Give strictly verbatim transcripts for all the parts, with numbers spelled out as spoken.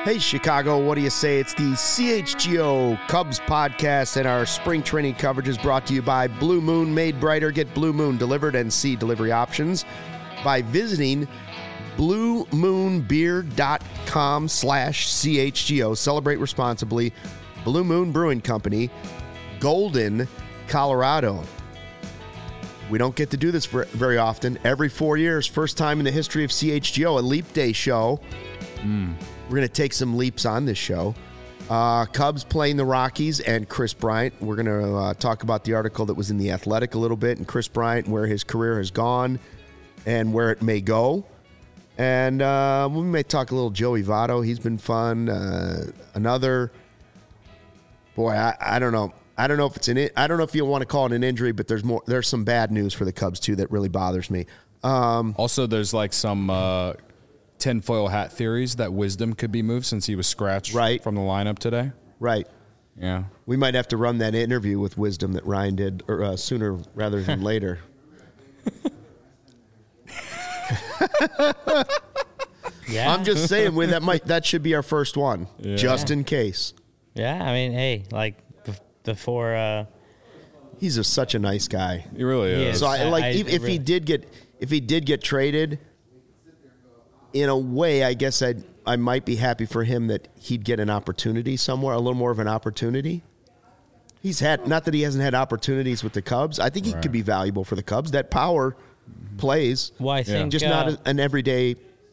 Hey, Chicago, what do you say? It's the C H G O Cubs podcast, and our spring training coverage is brought to you by Blue Moon Made Brighter. Get Blue Moon delivered and see delivery options by visiting bluemoonbeer.com slash CHGO. Celebrate responsibly. Blue Moon Brewing Company, Golden, Colorado. We don't get to do this for very often. Every four years, first time in the history of C H G O, a Leap Day show. Mm. We're going to take some leaps on this show. Uh, Cubs playing the Rockies and Chris Bryant. We're going to uh, talk about the article that was in The Athletic a little bit, and Chris Bryant, where his career has gone and where it may go. And uh, we may talk a little Joey Votto. He's been fun. Uh, another, boy, I, I don't know. I don't know if it's an. I don't know if you want to call it an injury, but there's more. There's some bad news for the Cubs too that really bothers me. Um, also, there's like some uh, tinfoil hat theories that Wisdom could be moved since he was scratched right. from the lineup today. Right. Yeah. We might have to run that interview with Wisdom that Ryan did or, uh, sooner rather than later. Yeah. I'm just saying, we that might that should be our first one, yeah. just in case. Yeah, I mean, hey, like before. Uh, He's a, such a nice guy. He really is. He is. So, I, like, I, I, if, if really. he did get if he did get traded, in a way, I guess I I might be happy for him that he'd get an opportunity somewhere, a little more of an opportunity. He's had not that he hasn't had opportunities with the Cubs. I think he right. could be valuable for the Cubs. That power plays. Well, I think just uh, not an everyday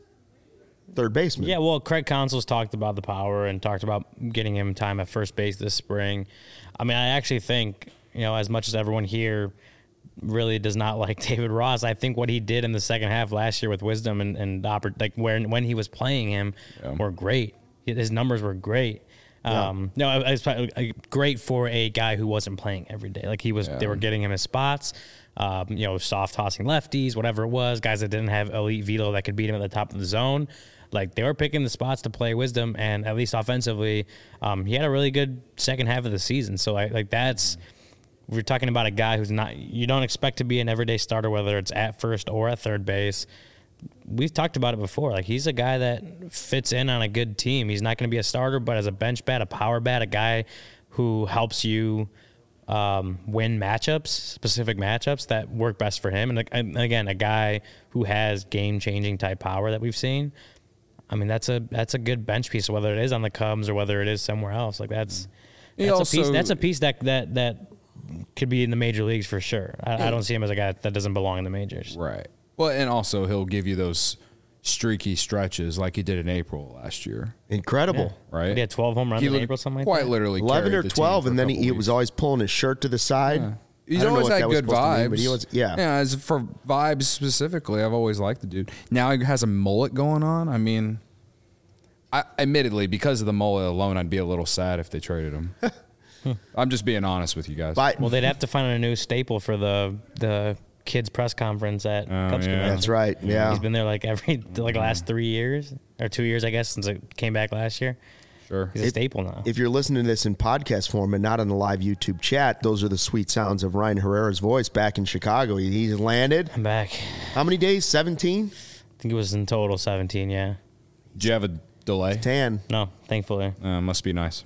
third baseman. Yeah, well, Craig Counsell's talked about the power and talked about getting him time at first base this spring. I mean, I actually think, you know, as much as everyone here really does not like David Ross, I think what he did in the second half last year with Wisdom and, and like when, when he was playing him yeah. were great. His numbers were great. Yeah. Um, no, it was great for a guy who wasn't playing every day. Like he was, yeah. they were getting him his spots. Um, you know, soft tossing lefties, whatever it was, guys that didn't have elite velo that could beat him at the top of the zone. Like they were picking the spots to play Wisdom, and at least offensively, um, he had a really good second half of the season. So I, like that's, we're talking about a guy who's not, you don't expect to be an everyday starter, whether it's at first or at third base. We've talked about it before. Like he's a guy that fits in on a good team. He's not going to be a starter, but as a bench bat, a power bat, a guy who helps you um, win matchups, specific matchups that work best for him. And, and again, a guy who has game-changing type power that we've seen. I mean, that's a that's a good bench piece, whether it is on the Cubs or whether it is somewhere else. Like that's that's also, a piece. That's a piece that that that could be in the major leagues for sure. I, I don't see him as a guy that doesn't belong in the majors. Right. Well, and also he'll give you those streaky stretches like he did in April last year. Incredible, yeah. right? He had twelve home runs he in April, something like quite that. Quite literally, eleven or twelve, and then he, he was always pulling his shirt to the side. Yeah. He's always had good vibes. Mean, but he was, yeah. Yeah, as for vibes specifically, I've always liked the dude. Now he has a mullet going on. I mean, I, admittedly, because of the mullet alone, I'd be a little sad if they traded him. I'm just being honest with you guys. But, well, they'd have to find a new staple for the the kids press conference at oh, Cubs. Yeah. That's right. Yeah, he's been there like every like last three years or two years, I guess, since it came back last year. Sure, he's a if, staple now. If you're listening to this in podcast form and not on the live YouTube chat, those are the sweet sounds of Ryan Herrera's voice back in Chicago. He, he's landed. I'm back. How many days? seventeen? I think it was in total seventeen. Yeah. Did you have a delay? ten. No, thankfully. Uh, must be nice.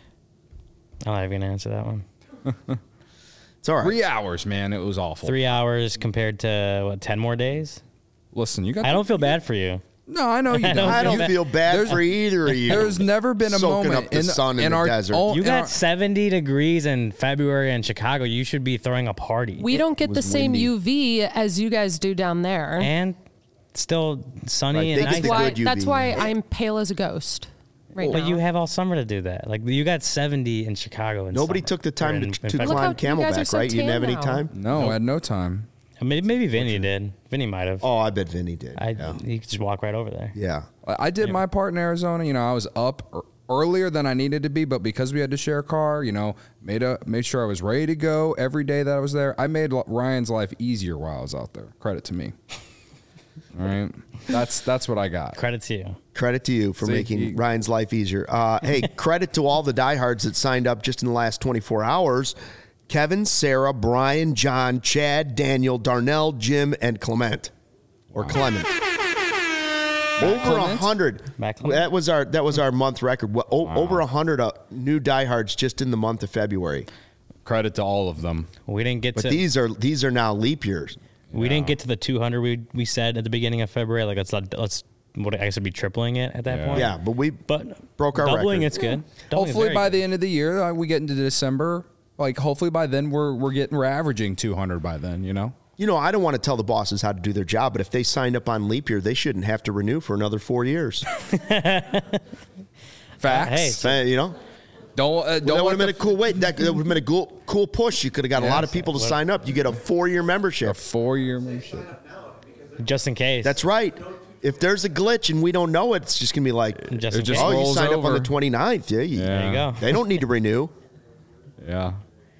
I'm not even gonna answer that one. It's all right. Three hours, man. It was awful. Three hours compared to what? Ten more days. Listen, you got. I don't feel bad for you. No, I know you I don't. I don't feel feel bad there's, for either of you. There's never been a Soaking moment up the in, sun in, in the our desert. Own, you got our, seventy degrees in February in Chicago. You should be throwing a party. We it don't get the same windy. U V as you guys do down there. And still sunny Right, and they nice. get the why, good U V. that's why I'm pale as a ghost right But now. you have all summer to do that. Like you got seventy in Chicago. In Nobody summer, took the time in, to, in to February. Look how climb you guys are Camelback, so right? You didn't tan have any now. time? no, I had no time. Maybe, maybe Vinny did. Vinny might have. Oh, I bet Vinny did. I, yeah. He could just walk right over there. yeah. I did my part in Arizona. You know, I was up er- earlier than I needed to be, but because we had to share a car, you know, made a made sure I was ready to go every day that I was there. I made Ryan's life easier while I was out there. Credit to me. All right, that's that's what I got. Credit to you. Credit to you for See, making he- Ryan's life easier. Uh, hey, credit to all the diehards that signed up just in the last twenty-four hours. Kevin, Sarah, Brian, John, Chad, Daniel, Darnell, Jim, and Clement. Or Clement. Over a Clemens? hundred. Matt Clemens? That was our that was our month record. Well, o- Over a hundred uh, new diehards just in the month of February. Credit to all of them. We didn't get But to these are these are now leap years. we didn't get to the two hundred we we said at the beginning of February. Like let's not- let's what I guess would be tripling it at that Yeah. point. Yeah, but we But broke our doubling record. it's good. Doubling is Hopefully very by good. the end of the year, uh, we get into December. Like hopefully by then we're we're getting we're averaging two hundred by then. You know. You know, I don't want to tell the bosses how to do their job, but if they signed up on leap year, they shouldn't have to renew for another four years. Facts. Hey, Uh, you know, Don't uh, that don't would let have been the a cool way. That, that would have been a cool, cool push. You could have got a Yeah. lot of people to sign up. You get a four-year membership. four year membership. just in case. That's right. If there's a glitch and we don't know it, it's just gonna be like, just It in just case. oh, you rolls signed up on over. the twenty-ninth. Yeah, you, Yeah. There you go. They don't need to renew. Yeah.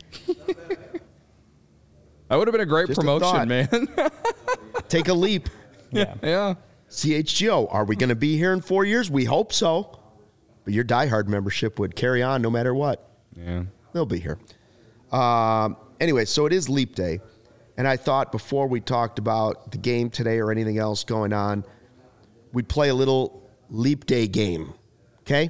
That would have been a great Just a promotion, thought. man. Take a leap. Yeah. yeah. C H G O, are we going to be here in four years? We hope so. But your diehard membership would carry on no matter what. Yeah. They'll be here. Um, anyway, so it is Leap Day. And I thought before we talked about the game today or anything else going on, we'd play a little Leap Day game. Okay?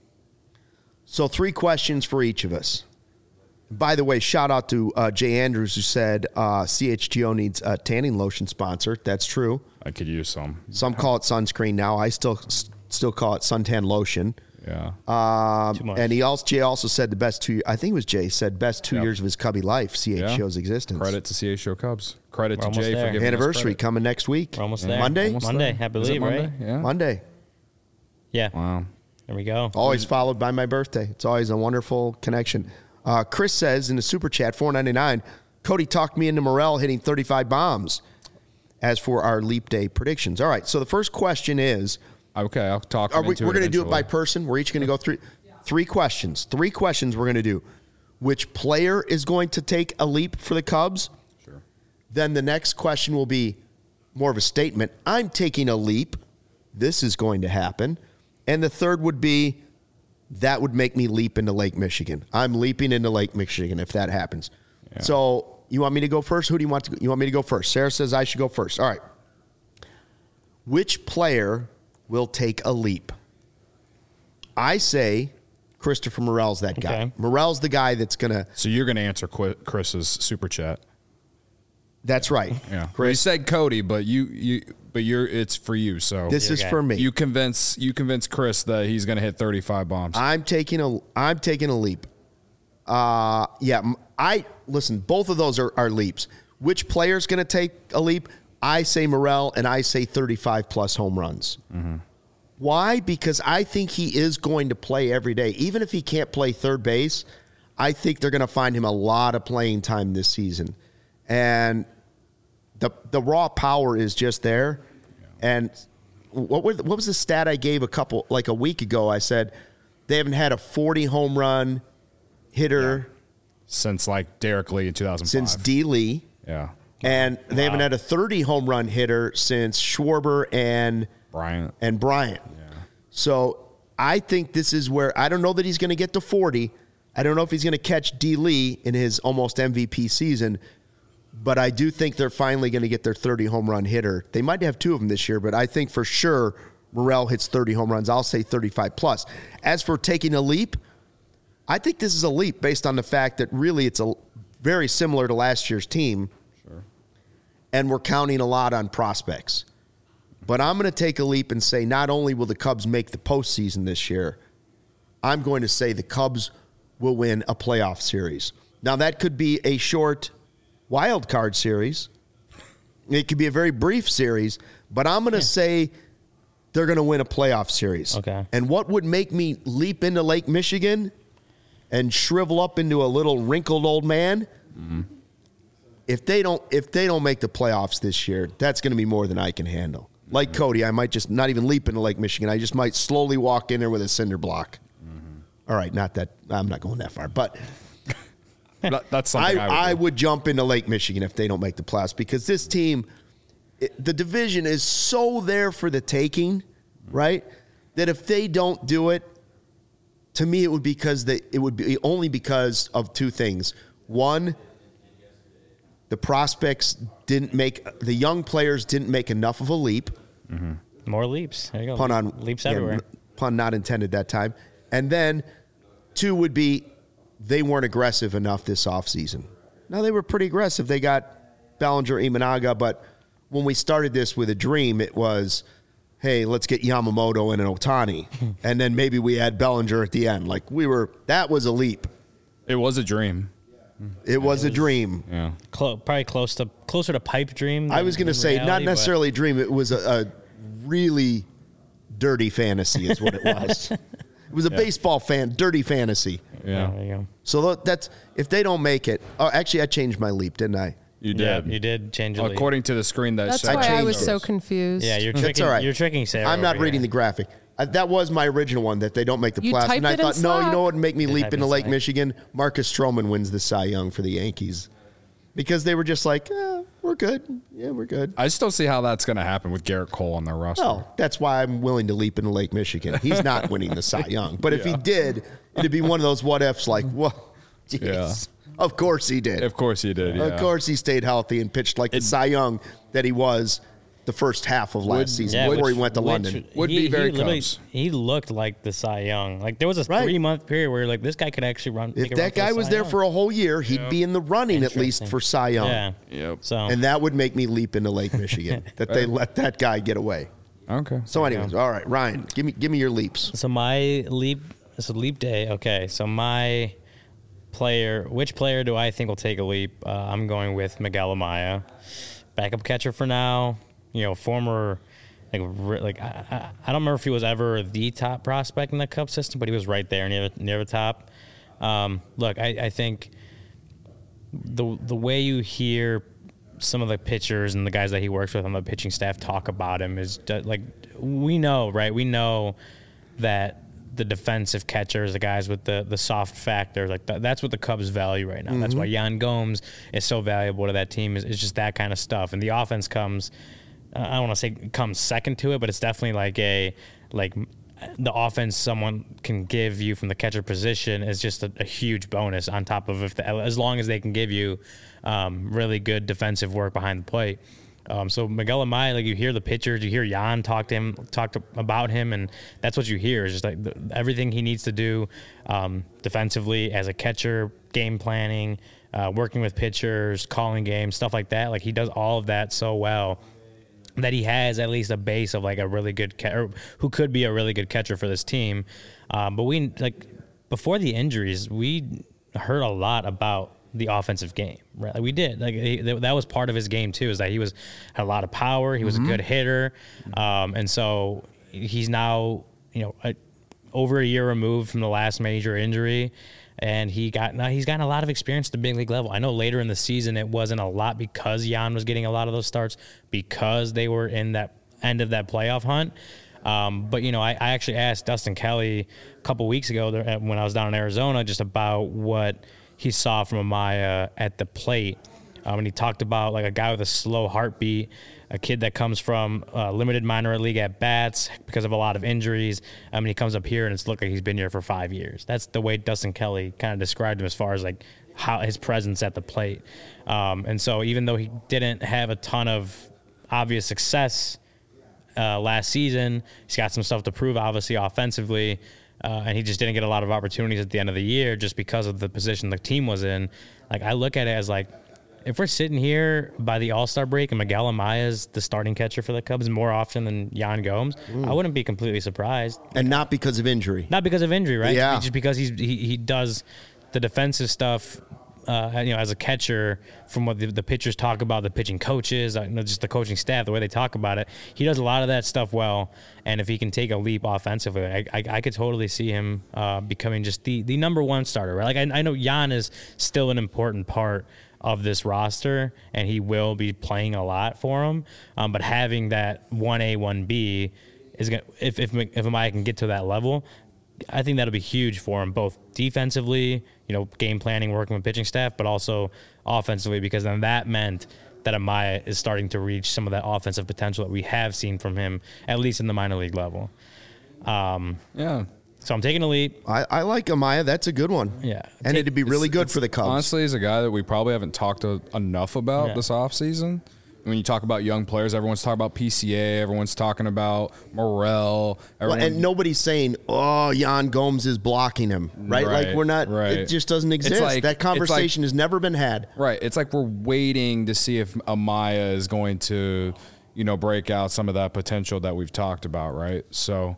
So three questions for each of us. By the way, shout out to uh, Jay Andrews who said uh, C H G O needs a tanning lotion sponsor. That's true. I could use some. Some call it sunscreen now. I still still call it suntan lotion. Yeah. Um, Too much. and he also Jay also said the best two. I think it was Jay said best two Yep. years of his Cubby life. C H G O's Yeah. existence. Credit to C H G O Cubs. Credit We're to almost Jay there. for giving us Anniversary credit. coming next week. We're almost Yeah. there. Monday? Almost Monday, there. I Is it believe, Monday? right? Yeah. Monday. Yeah. Wow. There we go. Always followed by my birthday. It's always a wonderful connection. Uh, Chris says in the super chat, four ninety-nine, Cody talked me into Morrell hitting thirty-five bombs. As for our Leap Day predictions. All right, so the first question is, Okay, I'll talk. are him we, into we're going to do it by eventually. person. We're each going to go through three questions. Three questions we're going to do. Which player is going to take a leap for the Cubs? Sure. Then the next question will be more of a statement. I'm taking a leap. This is going to happen. And the third would be, that would make me leap into Lake Michigan. I'm leaping into Lake Michigan if that happens. Yeah. So you want me to go first? Who do you want to go? You want me to go first? Sarah says I should go first. All right. Which player will take a leap? I say Christopher Morel's that guy. Okay. Morel's the guy that's going to. So you're going to answer Qu- Chris's super chat. That's right. Yeah. You Chris, said Cody, but you you but you're it's for you. So this Your is guy. for me. you convince you convince Chris that he's going to hit thirty-five bombs. I'm taking a I'm taking a leap. Uh, yeah, m- I listen. Both of those are, are leaps. Which player's going to take a leap? I say Morel, and I say thirty-five plus home runs. Why? Because I think he is going to play every day, even if he can't play third base. I think they're going to find him a lot of playing time this season, and the the raw power is just there. And what was what was the stat I gave a couple like a week ago? I said they haven't had a forty home run hitter Since like Derek Lee in two thousand five. since D. Lee, Yeah. and they haven't had a thirty home run hitter since Schwarber and Bryant. and Bryant. So I think this is where I don't know that he's going to get to forty. I don't know if he's going to catch D. Lee in his almost M V P season, but I do think they're finally going to get their thirty home run hitter. They might have two of them this year, but I think for sure Morel hits thirty home runs. I'll say thirty-five plus. As for taking a leap, I think this is a leap based on the fact that really it's a very similar to last year's team. Sure. And we're counting a lot on prospects. But I'm going to take a leap and say not only will the Cubs make the postseason this year, I'm going to say the Cubs will win a playoff series. Now, that could be a short wild card series. It could be a very brief series, but I'm going to say they're going to win a playoff series. Okay. And what would make me leap into Lake Michigan and shrivel up into a little wrinkled old man? Mm-hmm. If they don't, if they don't make the playoffs this year, that's going to be more than I can handle. Like Cody, I might just not even leap into Lake Michigan. I just might slowly walk in there with a cinder block. All right, not that I'm not going that far, but That- that's I, something I, would, I do. would jump into Lake Michigan if they don't make the playoffs because this team, it, the division is so there for the taking, right? That if they don't do it, to me it would be because they it would be only because of two things. One, the prospects didn't make the young players didn't make enough of a leap. More leaps. There you go. Pun on leaps yeah, everywhere. Pun not intended that time. And then two would be they weren't aggressive enough this offseason. Now they were pretty aggressive. They got Bellinger, Imanaga, but when we started this with a dream, it was, hey, let's get Yamamoto and an Ohtani. And then maybe we add Bellinger at the end. Like we were, that was a leap. It was a dream. It was a dream. Yeah. Clo- probably close to closer to pipe dream. I was going to say, reality, not but- necessarily a dream. It was a, a really dirty fantasy is what it was. It was a baseball fan, dirty fantasy. Yeah. There you go. So tho- that's, if they don't make it, oh, actually I changed my leap, didn't I? You Yeah, did. you did change the leap. According to the screen that That's said why I changed was it. so confused. Yeah, you're That's tricking. all right. You're tricking Sarah. I'm not over reading here. the graphic. Uh, that was my original one, that they don't make the You playoffs. typed And I it in thought, no, you Slack. know what would make me You leap typed into in Lake Slack. Michigan? Marcus Stroman wins the Cy Young for the Yankees. Because they were just like, eh, we're good. Yeah, we're good. I still see how that's going to happen with Garrett Cole on their roster. Well, that's why I'm willing to leap into Lake Michigan. He's not winning the Cy Young. But if he did, it'd be one of those what ifs like, whoa, jeez. Yeah. Of course he did. Of course he did. Yeah. Of course he stayed healthy and pitched like the Cy Young that he was the first half of last season Yeah, before which- he went to which- London. Would he, be very he literally- Cubs. He looked like the Cy Young. Like there was a Right. three month period where like this guy could actually run. make If a run that for the guy was Cy there Young. for a whole year, he'd be in the running at least Interesting. for Cy Young. Yeah. Yep. So And that would make me leap into Lake Michigan that they let that guy get away. Okay. So, anyways, all right, Ryan, give me give me your leaps. So my leap, it's a leap day. Okay, so my player, which player do I think will take a leap? Uh, I'm going with Miguel Amaya, backup catcher for now. You know, former, like, re- like I, I, I don't remember if he was ever the top prospect in the Cubs system, but he was right there near the, near the top. Um, look, I, I think the the way you hear some of the pitchers and the guys that he works with on the pitching staff talk about him is ju- like we know, right? We know that the defensive catchers, the guys with the the soft factor, like th- that's what the Cubs value right now. That's why Yan Gomes is so valuable to that team. Is, is just that kind of stuff, and the offense comes. I don't want to say comes second to it, but it's definitely like a like the offense someone can give you from the catcher position is just a, a huge bonus on top of if the, as long as they can give you um, really good defensive work behind the plate. Um, so Miguel Amaya, like you hear the pitchers, you hear Jan talk to him, talk to, about him, and that's what you hear is just like the, everything he needs to do um, defensively as a catcher, game planning, uh, working with pitchers, calling games, stuff like that. Like he does all of that so well that he has at least a base of like a really good catcher who could be a really good catcher for this team. Um, but we like before the injuries, we heard a lot about the offensive game, right? Like we did. Like he, that was part of his game too, is that he was had a lot of power. He was a good hitter, um, and so he's now you know a, over a year removed from the last major injury. And he got now he's gotten a lot of experience at the big league level. I know later in the season it wasn't a lot because Jan was getting a lot of those starts because they were in that end of that playoff hunt. Um, but you know, I, I actually asked Dustin Kelly a couple weeks ago there, when I was down in Arizona just about what he saw from Amaya at the plate. Um, and he talked about like a guy with a slow heartbeat, a kid that comes from uh, limited minor league at bats because of a lot of injuries. I mean, he comes up here and it's looked like he's been here for five years. That's the way Dustin Kelly kind of described him as far as like how his presence at the plate. Um, and so even though he didn't have a ton of obvious success uh, last season, he's got some stuff to prove, obviously offensively. Uh, and he just didn't get a lot of opportunities at the end of the year just because of the position the team was in. Like I look at it as like, if we're sitting here by the All-Star break and Miguel Amaya is the starting catcher for the Cubs more often than Yan Gomes, I wouldn't be completely surprised. And not because of injury. Not because of injury, right? Yeah. Just because he's, he he does the defensive stuff, uh, you know, as a catcher. From what the, the pitchers talk about, the pitching coaches, uh, you know, just the coaching staff, the way they talk about it, he does a lot of that stuff well. And if he can take a leap offensively, I I, I could totally see him uh, becoming just the the number one starter, right? Like I, I know Yan is still an important part of this roster, and he will be playing a lot for him. Um, but having that one A, one B is gonna, if if if Amaya can get to that level, I think that'll be huge for him, both defensively, you know, game planning, working with pitching staff, but also offensively, because then that meant that Amaya is starting to reach some of that offensive potential that we have seen from him, at least in the minor league level. Um, Yeah. so I'm taking a leap. I, I like Amaya. That's a good one. Yeah. And Take- it'd be really good for the Cubs. Honestly, he's a guy that we probably haven't talked to enough about Yeah. this offseason when you talk about young players, everyone's talking about P C A, everyone's talking about Morel. Well, and nobody's saying, "Oh, Jan Gomes is blocking him," right? Right, like we're not. right. It just doesn't exist. like- that it's conversation like- has never been had. Right. It's like we're waiting to see if Amaya is going to, you know, break out some of that potential that we've talked about, right? So,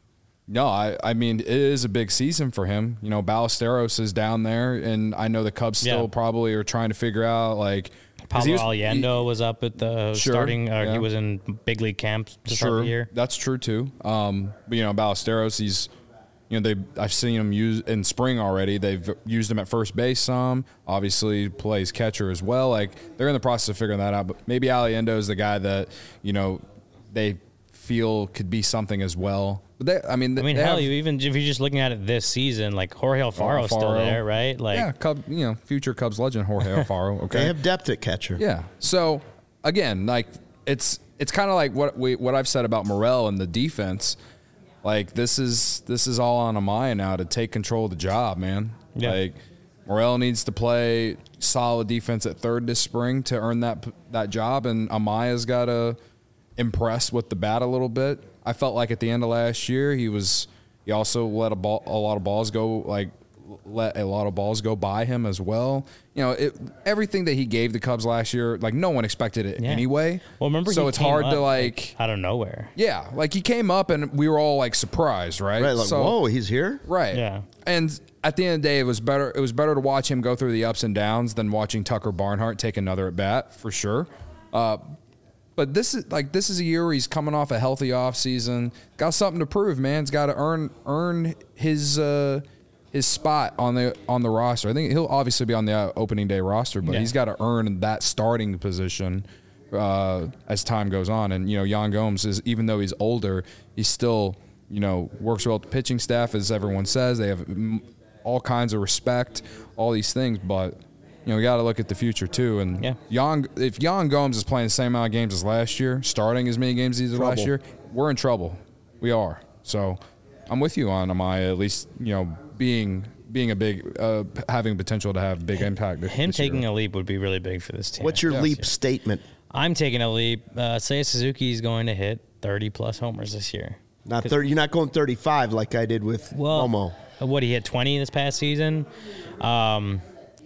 no, I, I mean, it is a big season for him. You know, Ballesteros is down there, and I know the Cubs still Yeah. probably are trying to figure out, like, 'cause he Pablo was- Allendo was up at the Sure, starting. Uh, yeah. He was in big league camp to start Sure, the year. that's true too. Um, but you know, Ballesteros, he's, you know, they I've seen him use in spring already. They've used him at first base some. Obviously, plays catcher as well. Like they're in the process of figuring that out. But maybe Allendo is the guy that you know they feel could be something as well. But they, I mean, I mean, they hell, have- you even if you're just looking at it this season, like Jorge Alfaro's still Alfaro. there, right? Like, yeah, Cub, you know, future Cubs legend Jorge Alfaro. Okay, They have depth at catcher. Yeah. So again, like it's it's kind of like what we what I've said about Morel and the defense. Like this is this is all on Amaya now to take control of the job, man. Yeah. Like Morel needs to play solid defense at third this spring to earn that that job, and Amaya's got to impress with the bat a little bit. I felt like at the end of last year he was he also let a ball a lot of balls go like let a lot of balls go by him as well. You know, it, everything that he gave the Cubs last year, like no one expected it Yeah. anyway. well, remember, so he it's came hard up, to like, out of nowhere. yeah, like he came up and we were all like surprised, right? Right. Like, so, whoa, he's here. right, Yeah. And at the end of the day, it was better. It was better to watch him go through the ups and downs than watching Tucker Barnhart take another at bat for sure. Uh, But this is like this is a year where he's coming off a healthy offseason. Got something to prove, man. He's got to earn earn his uh, his spot on the on the roster. I think he'll obviously be on the uh, opening day roster, but Yeah. he's got to earn that starting position uh, as time goes on. And you know, Jan Gomes is, even though he's older, he still you know works well with the pitching staff, as everyone says. They have mm, all kinds of respect, all these things, but. You know, we got to look at the future too. And Yeah. Jan, if Jan Gomes is playing the same amount of games as last year, starting as many games as he did last Trouble. year, we're in trouble. We are. So I'm with you on Amaya, at least, you know, being being a big, uh, having potential to have big impact. This, Him this year. taking a leap would be really big for this team. What's your Yes. leap statement? I'm taking a leap. Uh, Seiya Suzuki is going to hit thirty plus homers this year. Not thirty. You're not going thirty-five like I did with Well, Romo. what he hit twenty this past season. Um,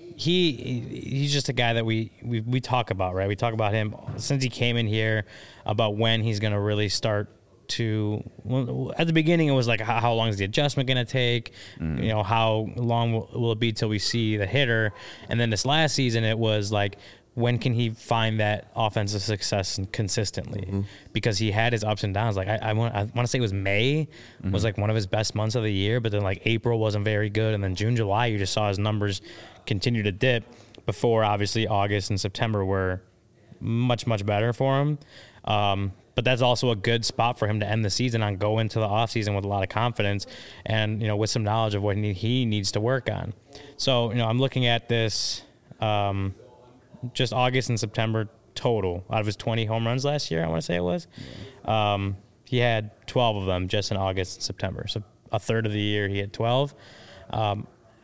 he he's just a guy that we, we we talk about, right? We talk about him since he came in here about when he's going to really start to. Well, at the beginning, it was like how, how long is the adjustment going to take? You know, how long will, will it be till we see the hitter? And then this last season, it was like, when can he find that offensive success consistently? Mm-hmm. Because he had his ups and downs. Like I, I want, I want to say it was May mm-hmm. was like one of his best months of the year, but then like April wasn't very good, and then June, July, you just saw his numbers continue to dip. Before obviously August and September were much much better for him. Um, but that's also a good spot for him to end the season on, go into the offseason with a lot of confidence and, you know, with some knowledge of what he, he needs to work on. So, you know, I'm looking at this. Um, just August and September total out of his twenty home runs last year, I want to say it was. Yeah. Um, he had twelve of them just in August and September. So a third of the year he had twelve. Um,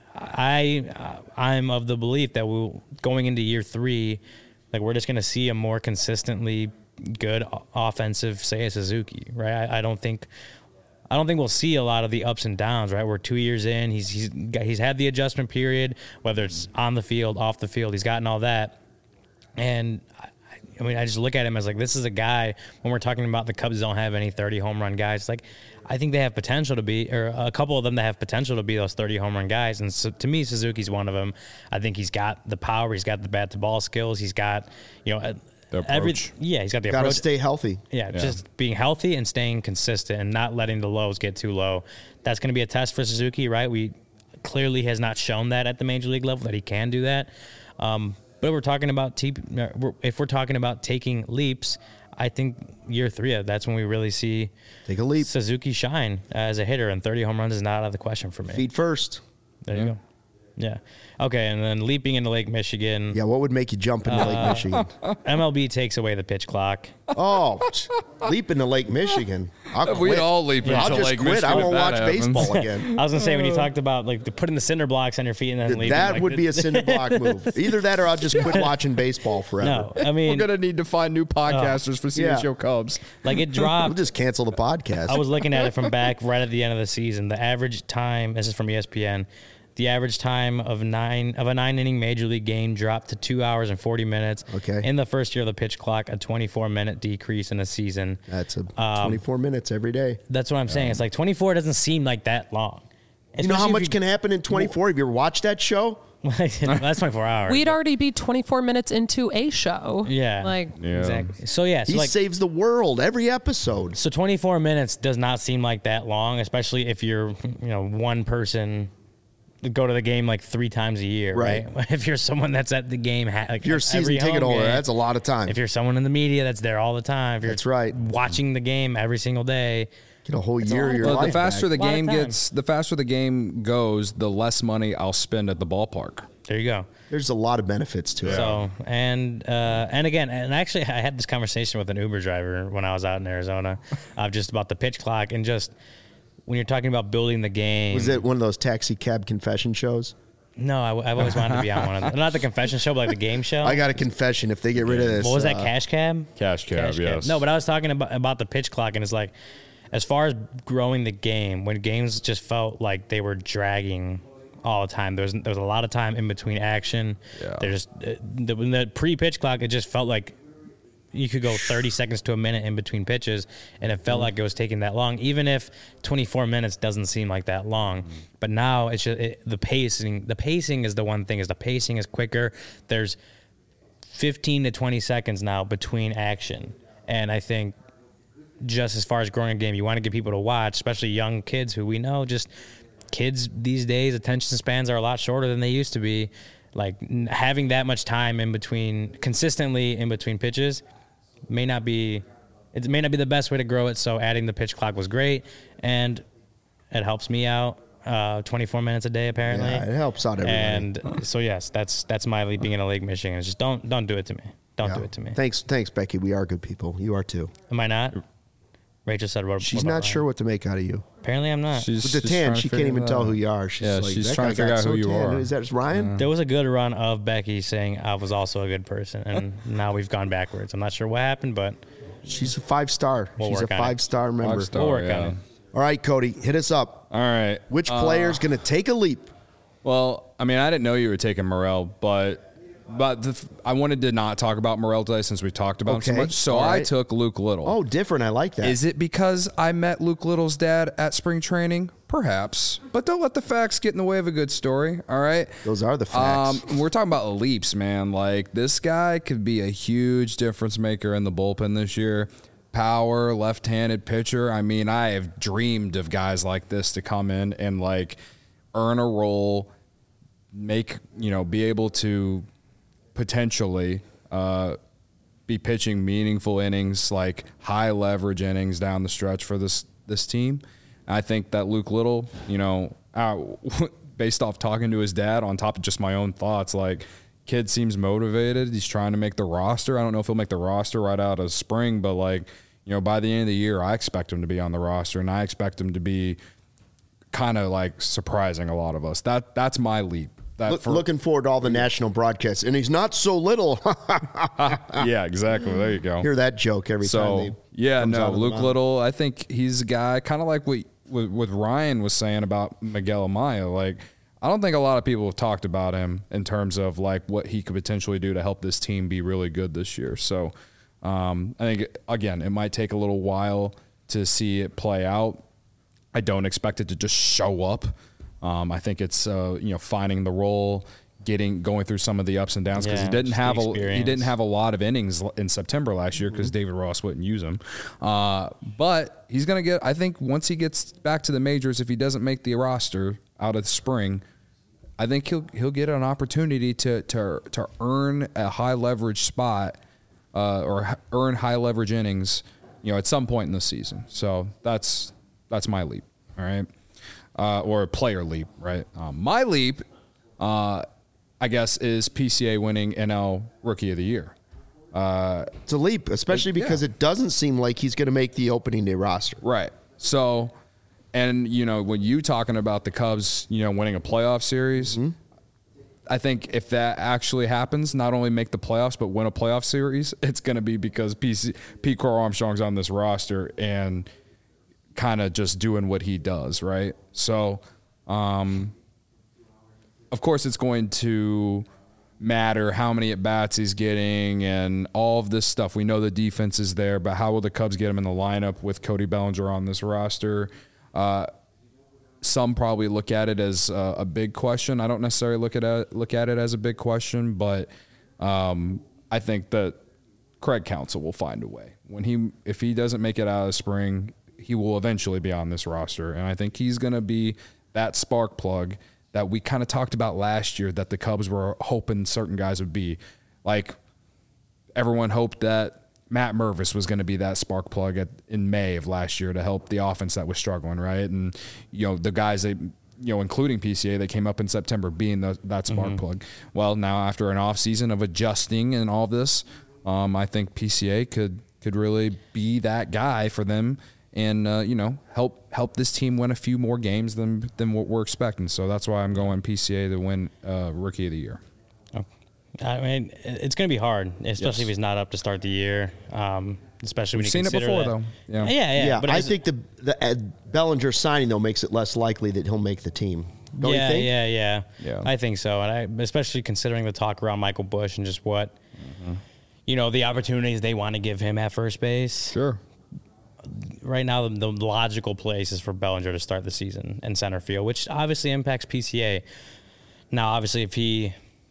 I, I'm of the belief that we'll, going into year three, like we're just going to see a more consistently good offensive Seiya Suzuki, right? I, I don't think I don't think we'll see a lot of the ups and downs, right? We're two years in. He's he's he's had the adjustment period, whether it's on the field, off the field. He's gotten all that. And, I, I mean, I just look at him as like, this is a guy, when we're talking about the Cubs don't have any thirty home run guys, like, I think they have potential to be, or a couple of them that have potential to be those thirty home run guys. And so, to me, Suzuki's one of them. I think he's got the power. He's got the bat to ball skills. He's got, you know, The every, approach. yeah, he's got the Got to approach. stay healthy. Yeah, Yeah. just being healthy and staying consistent and not letting the lows get too low. That's going to be a test for Suzuki, right? We clearly has not shown that at the major league level, that he can do that. Um, but we're talking about te- if we're talking about taking leaps, I think year three, that's when we really see Take a leap. Suzuki shine as a hitter, and thirty home runs is not out of the question for me. Feet first. There Yeah. you go. Yeah. Okay, and then leaping into Lake Michigan. Yeah, what would make you jump into Uh, Lake Michigan? M L B takes away the pitch clock. Oh, leap into Lake Michigan. I'll We'd quit. all leap I'll into just Lake quit. Michigan I if won't that watch happens. baseball again. I was gonna say when you talked about like the putting the cinder blocks on your feet and then leaving. That like, would be a cinder block move. Either that or I'll just quit watching baseball forever. No, I We're mean, gonna need to find new podcasters for C H O Yeah. Cubs. like it We'll dropped. just cancel the podcast. I was looking at it from back right at the end of the season. The average time, this is from E S P N, the average time of nine of a nine inning major league game dropped to two hours and forty minutes. Okay. In the first year of the pitch clock, a twenty-four minute decrease in a season. That's a Um, twenty-four minutes every day. That's what I'm saying. It's like twenty-four doesn't seem like that long. You know how Especially much if can happen in twenty-four? Have you ever watched that show? you, that's twenty-four hours. We'd already be twenty-four minutes into a show. Yeah. Like, Yeah. Exactly. So yeah, so He like saves the world every episode. so twenty-four minutes does not seem like that long, especially if you're, you know, one person go to the game like three times a year, right? Right. If you're someone that's at the game, ha- like If you're a season every ticket home holder, game, that's a lot of time. If you're someone in the media that's there all the time, if you're That's right. watching the game every single day, Get a whole a year lot of of your fun. Well, the life faster back. the Lot of game time. gets, the faster the game goes, the less money I'll spend at the ballpark. there you go. There's a lot of benefits to it. So and uh, and again, and actually, I had this conversation with an Uber driver when I was out in Arizona, uh, just about the pitch clock and just when you're talking about building the game. Was it one of those taxi cab confession shows? No, I, have always wanted to be on one of them. Not the confession show, but like the game show. I got a confession. If they get rid of this, What was that, uh, Cash Cab? Cash Cab, yes. No, but I was talking about, about the pitch clock, and it's like, as far as growing the game, when games just felt like they were dragging all the time, there was, there was a lot of time in between action. Yeah. There's uh, the, when the pre-pitch clock, it just felt like you could go thirty seconds to a minute in between pitches, and it felt like it was taking that long, even if twenty-four minutes doesn't seem like that long. But now it's just it, the pacing. The pacing is the one thing. Is the pacing is quicker. There's fifteen to twenty seconds now between action, and I think just as far as growing a game, you want to get people to watch, especially young kids who we know just kids these days attention spans are a lot shorter than they used to be. Like n- having that much time in between, consistently in between pitches, may not be it may not be the best way to grow it. So adding the pitch clock was great, and it helps me out. Uh, twenty-four minutes a day apparently. Yeah, it helps out everybody. And so yes, that's that's my leap being in a Lake Michigan. It's just don't don't do it to me. Don't Yeah. do it to me. Thanks, thanks, Becky. We are good people. You are too. Am I not? Rachel said what? She's what about not Ryan? sure what to make out of you. Apparently, I'm not. She's, With the she's tan, trying to she can't figure even that tell out. who you are. She's Yeah, like, she's that trying guy to figure got out so who you tan. are. Is that Ryan? There was a good run of Becky saying I was also a good person, and now we've gone backwards. I'm not sure what happened, but She's a five star. We'll She's a work on it. five star member. Five star, we'll work yeah. on it. All right, Cody, hit us up. All right. Which Uh, player's going to take a leap? Well, I mean, I didn't know you were taking Morel, but but the, f- I wanted to not talk about Morel today since we talked about him so Okay, much. So all I right. took Luke Little. Oh, different. I like that. Is it because I met Luke Little's dad at spring training? Perhaps. But don't let the facts get in the way of a good story, all right? Those are the facts. Um, we're talking about leaps, man. Like, this guy could be a huge difference maker in the bullpen this year. Power, left-handed pitcher. I mean, I have dreamed of guys like this to come in and, like, earn a role, make, you know, be able to potentially uh, be pitching meaningful innings, like high leverage innings down the stretch for this this team. I think that Luke Little, you know, uh, based off talking to his dad, on top of just my own thoughts, like, kid seems motivated. He's trying to make the roster. I don't know if he'll make the roster right out of spring, but, like, you know, by the end of the year, I expect him to be on the roster, and I expect him to be kind of like surprising a lot of us. That that's my leap. That Look, for- looking forward to all the national broadcasts. And he's not so little. yeah, exactly. There you go. Hear that joke every time. So They yeah, comes out no, of the Luke mound. Little. I think he's a guy kind of like what, what what Ryan was saying about Miguel Amaya. Like, I don't think a lot of people have talked about him in terms of like what he could potentially do to help this team be really good this year. So um, I think again, it might take a little while to see it play out. I don't expect it to just show up. Um, I think it's uh, you know, finding the role, getting going through some of the ups and downs because Yeah, he didn't just the have a he experience. didn't have a lot of innings l- in September last year because David Ross wouldn't use him. Uh, but he's gonna get. I think once he gets back to the majors, if he doesn't make the roster out of the spring, I think he'll he'll get an opportunity to to to earn a high leverage spot uh, or h- earn high leverage innings, you know, at some point in the season. So that's that's my leap. All right. Uh, or a player leap, right? Um, my leap, uh, I guess, is P C A winning N L Rookie of the Year. Uh, It's a leap, especially It- yeah. because it doesn't seem like he's going to make the opening day roster. right. So, and, you know, when you talking about the Cubs, you know, winning a playoff series, Mm-hmm. I think if that actually happens, not only make the playoffs, but win a playoff series, it's going to be because P C, Pete Crow Armstrong's on this roster and kind of just doing what he does, right? So, um, of course, it's going to matter how many at-bats he's getting and all of this stuff. We know the defense is there, but how will the Cubs get him in the lineup with Cody Bellinger on this roster? Uh, some probably look at it as a, a big question. I don't necessarily look at it, look at it as a big question, but um, I think that Craig Counsell will find a way. When he, if he doesn't make it out of spring, he will eventually be on this roster, and I think he's going to be that spark plug that we kind of talked about last year that the Cubs were hoping certain guys would be. Like, everyone hoped that Matt Mervis was going to be that spark plug at, in May of last year to help the offense that was struggling, right? And, you know, the guys that, you know, including P C A, that came up in September being the, that spark mm-hmm. plug. Well, now after an offseason of adjusting and all this, um, I think P C A could could really be that guy for them and, uh, you know, help help this team win a few more games than than what we're expecting. So that's why I'm going P C A to win uh, Rookie of the Year. I mean, it's going to be hard, especially Yes. if he's not up to start the year. Um, especially when We've you seen it consider before, that. though. Yeah. Yeah, yeah. Yeah, but I as- think the the uh, Bellinger signing though makes it less likely that he'll make the team. Don't yeah, you think? yeah, yeah, Yeah. I think so, and I, especially considering the talk around Michael Busch and just what, Mm-hmm. you know, the opportunities they want to give him at first base. Sure. Right now, the, the logical place is for Bellinger to start the season in center field, which obviously impacts P C A. Now, obviously, if he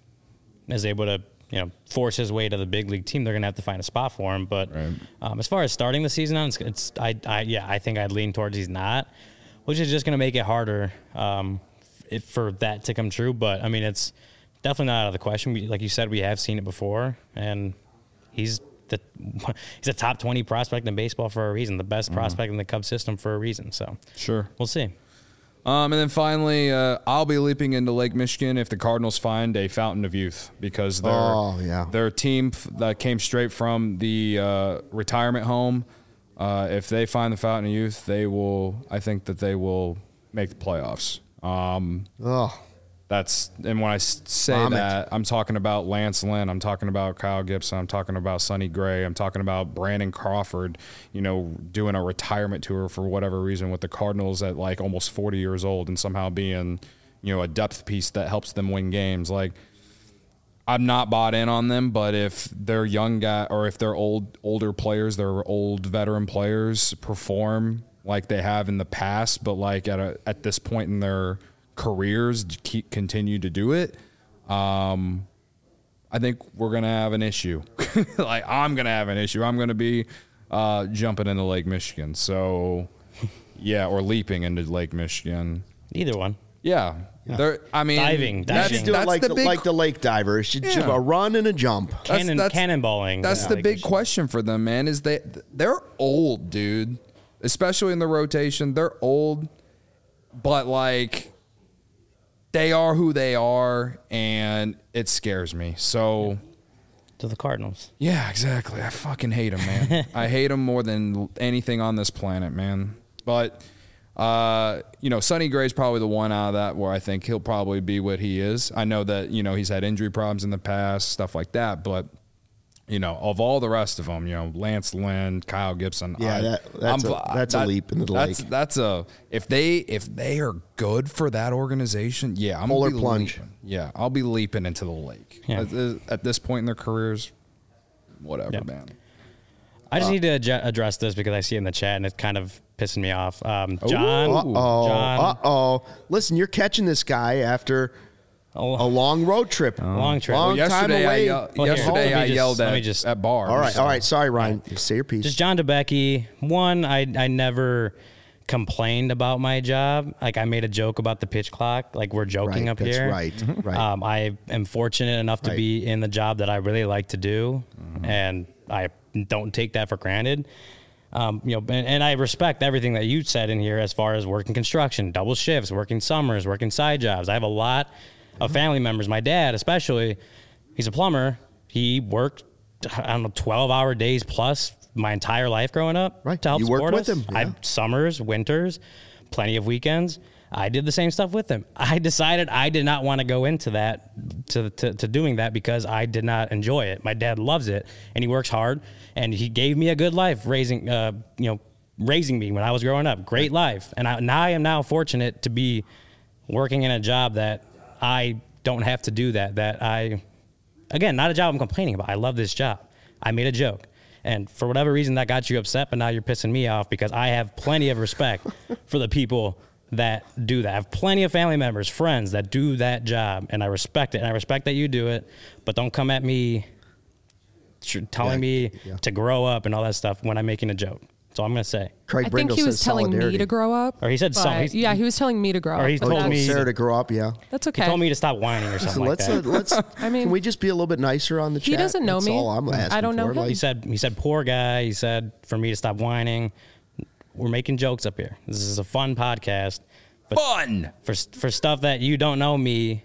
is able to, you know, force his way to the big league team, they're going to have to find a spot for him. But Right. um, as far as starting the season on, it's, it's I, I, yeah, I think I'd lean towards he's not, which is just going to make it harder um, if, for that to come true. But I mean, it's definitely not out of the question. We, like you said, we have seen it before, and he's the he's a top twenty prospect in baseball for a reason, the best Mm-hmm. prospect in the Cubs system for a reason. So Sure. we'll see. Um, and then finally, uh, I'll be leaping into Lake Michigan if the Cardinals find a fountain of youth because their Oh, yeah. their team f- that came straight from the uh, retirement home. Uh, if they find the fountain of youth, they will. I think that they will make the playoffs. Um, Oh, That's and when I s- say Vomit. that, I'm talking about Lance Lynn, I'm talking about Kyle Gibson, I'm talking about Sonny Gray, I'm talking about Brandon Crawford, you know, doing a retirement tour for whatever reason with the Cardinals at like almost forty years old and somehow being, you know, a depth piece that helps them win games. Like, I'm not bought in on them, but if they're young guy or if they're old older players, they're old veteran players perform like they have in the past, but like at a, at this point in their careers keep continue to do it, um, I think we're gonna have an issue. Like I'm gonna have an issue. I'm gonna be uh, jumping into Lake Michigan. So yeah, or leaping into Lake Michigan. Either one. Yeah, There- I mean, Diving, that's- diving. do it that's like the the, big like the lake diver. It should Yeah. should a run and a jump. That's- Cannon, that's- cannonballing. That's Yeah. the Like big Michigan. question for them, man. Is they they're old, dude. Especially in the rotation, they're old, but like they are who they are, and it scares me. So To the Cardinals. yeah, exactly. I fucking hate them, man. I hate them more than anything on this planet, man. But uh, you know, Sonny Gray's probably the one out of that where I think he'll probably be what he is. I know that you know he's had injury problems in the past, stuff like that, but. You know, of all the rest of them, you know, Lance Lynn, Kyle Gibson. Yeah, I, that- that's I'm- a- that's a leap into the that's, lake. That's a if they if they are good for that organization, yeah, I'm Polar gonna be plunge. leaping. Yeah, I'll be leaping into the lake. Yeah. At, this- at this point in their careers, whatever, Yeah. man. I Uh, just need to adju- address this because I see it in the chat and it's kind of pissing me off. Um, John, Uh oh. John, Uh oh. Listen, you're catching this guy after a long road trip. long trip. Long Well, time yesterday I, away. yell- Well, here, yesterday let me I just- yelled let me at, just- at bars. All right, all right. Sorry, Ryan. Say your piece. Just John DeBecky. One, I I never complained about my job. Like I made a joke about the pitch clock. Like we're joking Right, up that's here. right, right. Um, I am fortunate enough to Right. be in the job that I really like to do, and I don't take that for granted. Um, you know, and, and I respect everything that you said in here as far as working construction, double shifts, working summers, working side jobs. I have a lot of family members. My dad, especially, he's a plumber. He worked I don't know, twelve hour days plus my entire life growing up. Right. To help You worked support with us. him, yeah. I summers, winters, plenty of weekends. I did the same stuff with him. I decided I did not want to go into that, to, to, to doing that because I did not enjoy it. My dad loves it and he works hard and he gave me a good life raising, uh, you know, raising me when I was growing up. Great life. And I, now I am now fortunate to be working in a job that I don't have to do that, that I, again, not a job I'm complaining about. I love this job. I made a joke. And for whatever reason that got you upset, but now you're pissing me off because I have plenty of respect for the people that do that. I have plenty of family members, friends that do that job, and I respect it. And I respect that you do it, but don't come at me tr- telling Yeah, me yeah. to grow up and all that stuff when I'm making a joke. That's all I'm going to say. Craig I Brindle think he was says telling solidarity. me to grow up. Or he said but- something. He's- Yeah, he was telling me to grow Or up. he but told Told me- Sarah to grow up, yeah. That's He okay. told me to stop whining or So something like let's, that. uh, let's, I mean- can we just be a little bit nicer on the He chat? doesn't know That's me. all I'm asking I don't know for. him. Like, He said, he said, poor guy. He said, for me to stop whining. We're making jokes up here. This is a fun podcast. But Fun. for for stuff that you don't know me,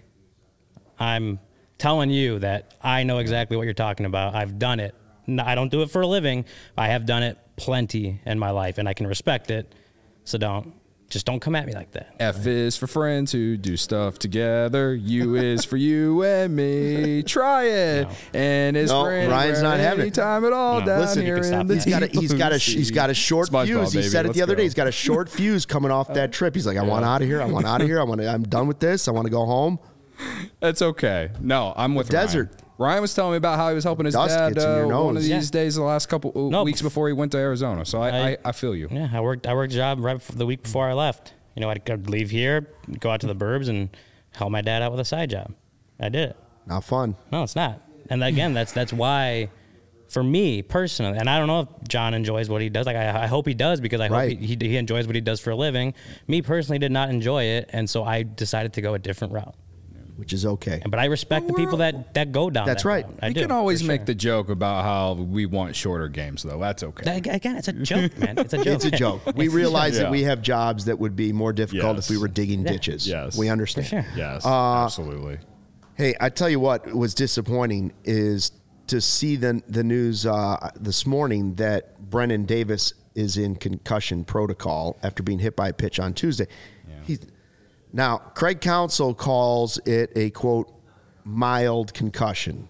I'm telling you that I know exactly what you're talking about. I've done it. N- I don't do it for a living. I have done it plenty in my life, and I can respect it. So don't just don't come at me like that. F is for friends who do stuff together. U is for you and me. Try it. No. And is No, for Ryan's not having it. anytime at all No. down Listen, you here can stop in the that. He's got a he's got a he's got a short SpongeBob, fuse. He baby. said it Let's the other go. day. He's got a short fuse coming off that trip. He's like, I want out of here. I want out of here. I want to, I'm done with this. I want to go home. That's okay. No, I'm with Desert. Ryan. Ryan was telling me about how he was helping his Dust dad gets in your uh, one of nose. these Yeah. days, the last couple uh, No, weeks bef- before he went to Arizona. So I, I, I- I feel you. Yeah, I worked. I worked a job right before, the week before I left. You know, I'd I'd leave here, go out to the burbs, and help my dad out with a side job. I did it. Not fun. No, it's not. And again, that's that's why, for me personally, and I don't know if John enjoys what he does. Like I, I hope he does because I hope Right. he, he he enjoys what he does for a living. Me personally did not enjoy it, and so I decided to go a different route. Which is okay. But I respect the people that, that go down. That's that right. route. I You do, can always for make sure. the joke about how we want shorter games, though. That's okay. That- again. It's a joke, man. It's a joke. It's a joke. We realize Yeah. that we have jobs that would be more difficult Yes. if we were digging Yeah. ditches. Yes. We understand. For sure. Yes, Uh, absolutely. Hey, I tell you what was disappointing is to see the the news uh, this morning that Brennan Davis is in concussion protocol after being hit by a pitch on Tuesday. He's, now, Craig Counsell calls it a, quote, mild concussion.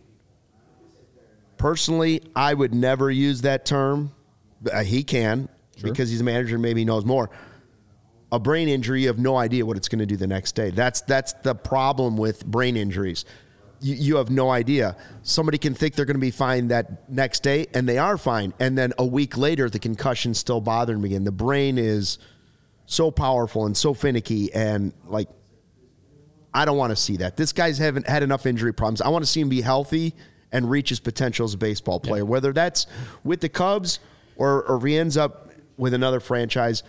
Personally, I would never use that term. Uh, he can because he's a manager and maybe he knows more. A brain injury, you have no idea what it's going to do the next day. That's that's the problem with brain injuries. You, you have no idea. Somebody can think they're going to be fine that next day, and they are fine. And then a week later, the concussion's still bothering them again. The brain is so powerful and so finicky, and like, I don't want to see that. This guy's haven't had enough injury problems. I want to see him be healthy and reach his potential as a baseball player, whether that's with the Cubs or, or if he ends up with another franchise.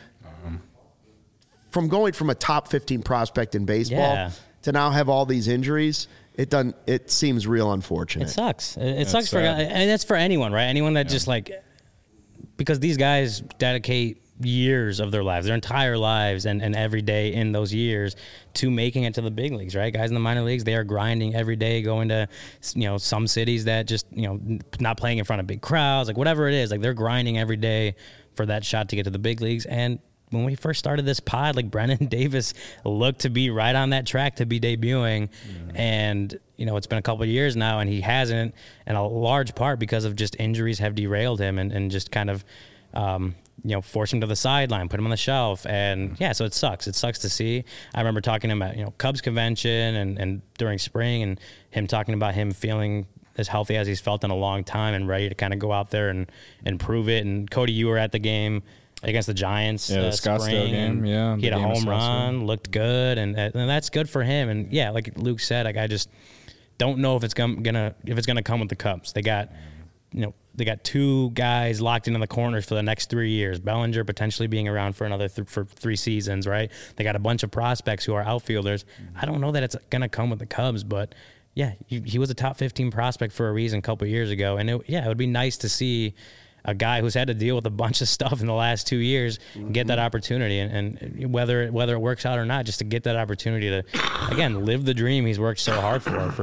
From going from a top fifteen prospect in baseball Yeah. to now have all these injuries, it doesn't. It seems real unfortunate. It sucks. It, it That's sucks for, sad. and that's for anyone, right? Anyone that just like, because these guys dedicate years of their lives, their entire lives, and, and every day in those years to making it to the big leagues, right? Guys in the minor leagues, they are grinding every day, going to, you know, some cities that just, you know, not playing in front of big crowds, like whatever it is, like they're grinding every day for that shot to get to the big leagues. And when we first started this pod, like Brennan Davis looked to be right on that track to be debuting. Mm-hmm. And, you know, it's been a couple of years now and he hasn't, and a large part because of just injuries have derailed him and, and just kind of, um, you know, force him to the sideline, put him on the shelf. And yeah, so it sucks. It sucks to see. I remember talking to him at, you know, Cubs convention and, and during spring and him talking about him feeling as healthy as he's felt in a long time and ready to kind of go out there and, and prove it. And Cody, you were at the game against the Giants, Yeah, the uh, Scottsdale spring, game, and yeah, he had the a game of home Scottsdale. run, looked good, and, and that's good for him. And yeah, like Luke said, like I just don't know if it's gonna, gonna if it's gonna come with the Cubs. They got, you know, they got two guys locked into the corners for the next three years. Bellinger potentially being around for another th- for three seasons, right? They got a bunch of prospects who are outfielders. I don't know that it's gonna come with the Cubs, but yeah, he, he was a top fifteen prospect for a reason a couple of years ago, and it, yeah, it would be nice to see a guy who's had to deal with a bunch of stuff in the last two years get that opportunity, and, and whether whether it works out or not, just to get that opportunity to again live the dream he's worked so hard for for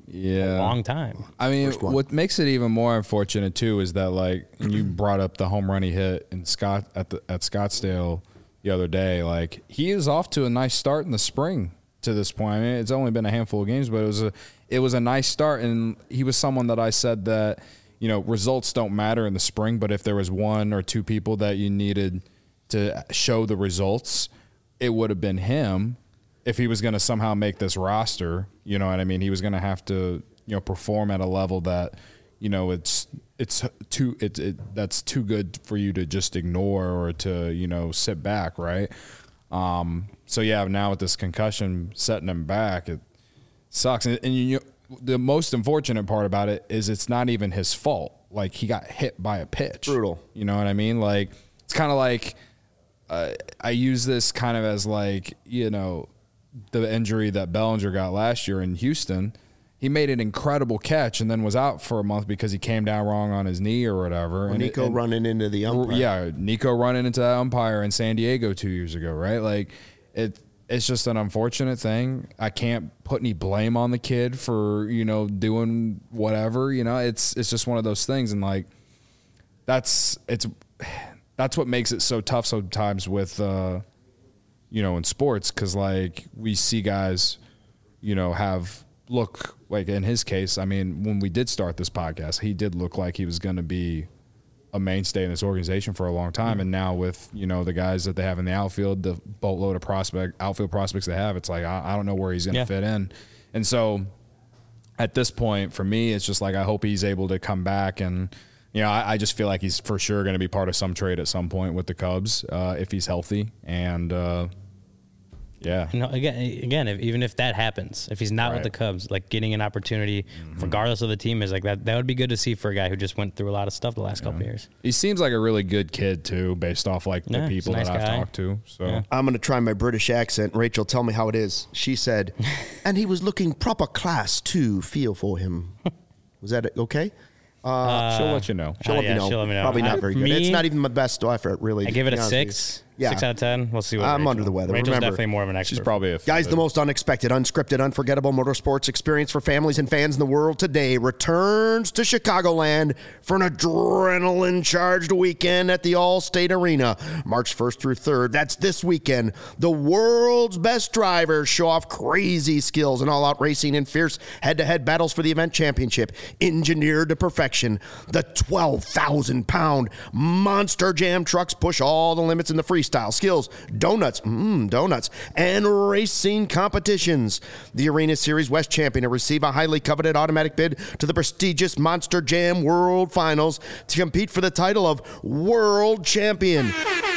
Yeah. a long time. I mean, First one. what makes it even more unfortunate too is that, like, and you brought up the home run he hit in Scott at the at Scottsdale the other day. Like, he is off to a nice start in the spring to this point. I mean, it's only been a handful of games, but it was a it was a nice start, and he was someone that I said that, you know, results don't matter in the spring, but if there was one or two people that you needed to show the results, it would have been him. If he was going to somehow make this roster, you know what I mean? He was going to have to, you know, perform at a level that, you know, it's it's too it, it that's too good for you to just ignore or to, you know, sit back, right? Um, so yeah, now with this concussion setting him back, it sucks. And, and you, the most unfortunate part about it is it's not even his fault. Like, he got hit by a pitch. Brutal. You know what I mean? Like, it's kind of like uh, I use this kind of as like, you know, the injury that Bellinger got last year in Houston. He made an incredible catch and then was out for a month because he came down wrong on his knee or whatever. And and Nico it, and, running into the umpire. Yeah, Nico running into that umpire in San Diego two years ago, right? Like, it. It's just an unfortunate thing. I can't put any blame on the kid for, you know, doing whatever. You know, it's it's just one of those things, and like, that's it's that's what makes it so tough sometimes with, uh, you know, in sports, because like we see guys, you know, have look like in his case. I mean, when we did start this podcast, he did look like he was going to be a mainstay in this organization for a long time. And now with, you know, the guys that they have in the outfield, the boatload of prospect outfield prospects they have, it's like, I, I don't know where he's going to Yeah. fit in. And so at this point for me, it's just like, I hope he's able to come back. And, you know, I, I just feel like he's for sure going to be part of some trade at some point with the Cubs, uh, if he's healthy. And, uh, yeah. You know, again, again, if, even if that happens, if he's not Right. with the Cubs, like getting an opportunity, regardless of the team, is like that. That would be good to see for a guy who just went through a lot of stuff the last couple of years. He seems like a really good kid too, based off like the Yeah, he's a people nice that I've guy. talked to. So Yeah. I'm going to try my British accent. Rachel, tell me how it is. She said, and he was looking proper class too. Feel for him. Was that okay? uh, she'll let you know. She'll Oh, let yeah, me know. she'll let me know. Probably I- not very for good. me, It's not even my best effort, really. I to give it be a honest with you. six, Yeah. six out of ten. We'll see what I'm Rachel- under the weather. Rachel's Remember, definitely more of an expert. She's probably a Guys, the most unexpected, unscripted, unforgettable motorsports experience for families and fans in the world today returns to Chicagoland for an adrenaline-charged weekend at the Allstate Arena, March first through third. That's this weekend. The world's best drivers show off crazy skills and all-out racing and fierce head-to-head battles for the event championship, engineered to perfection. The twelve thousand pound Monster Jam trucks push all the limits in the freestyle, skills, donuts, mmm, donuts, and racing competitions. The Arena Series West champion will receive a highly coveted automatic bid to the prestigious Monster Jam World Finals to compete for the title of World Champion.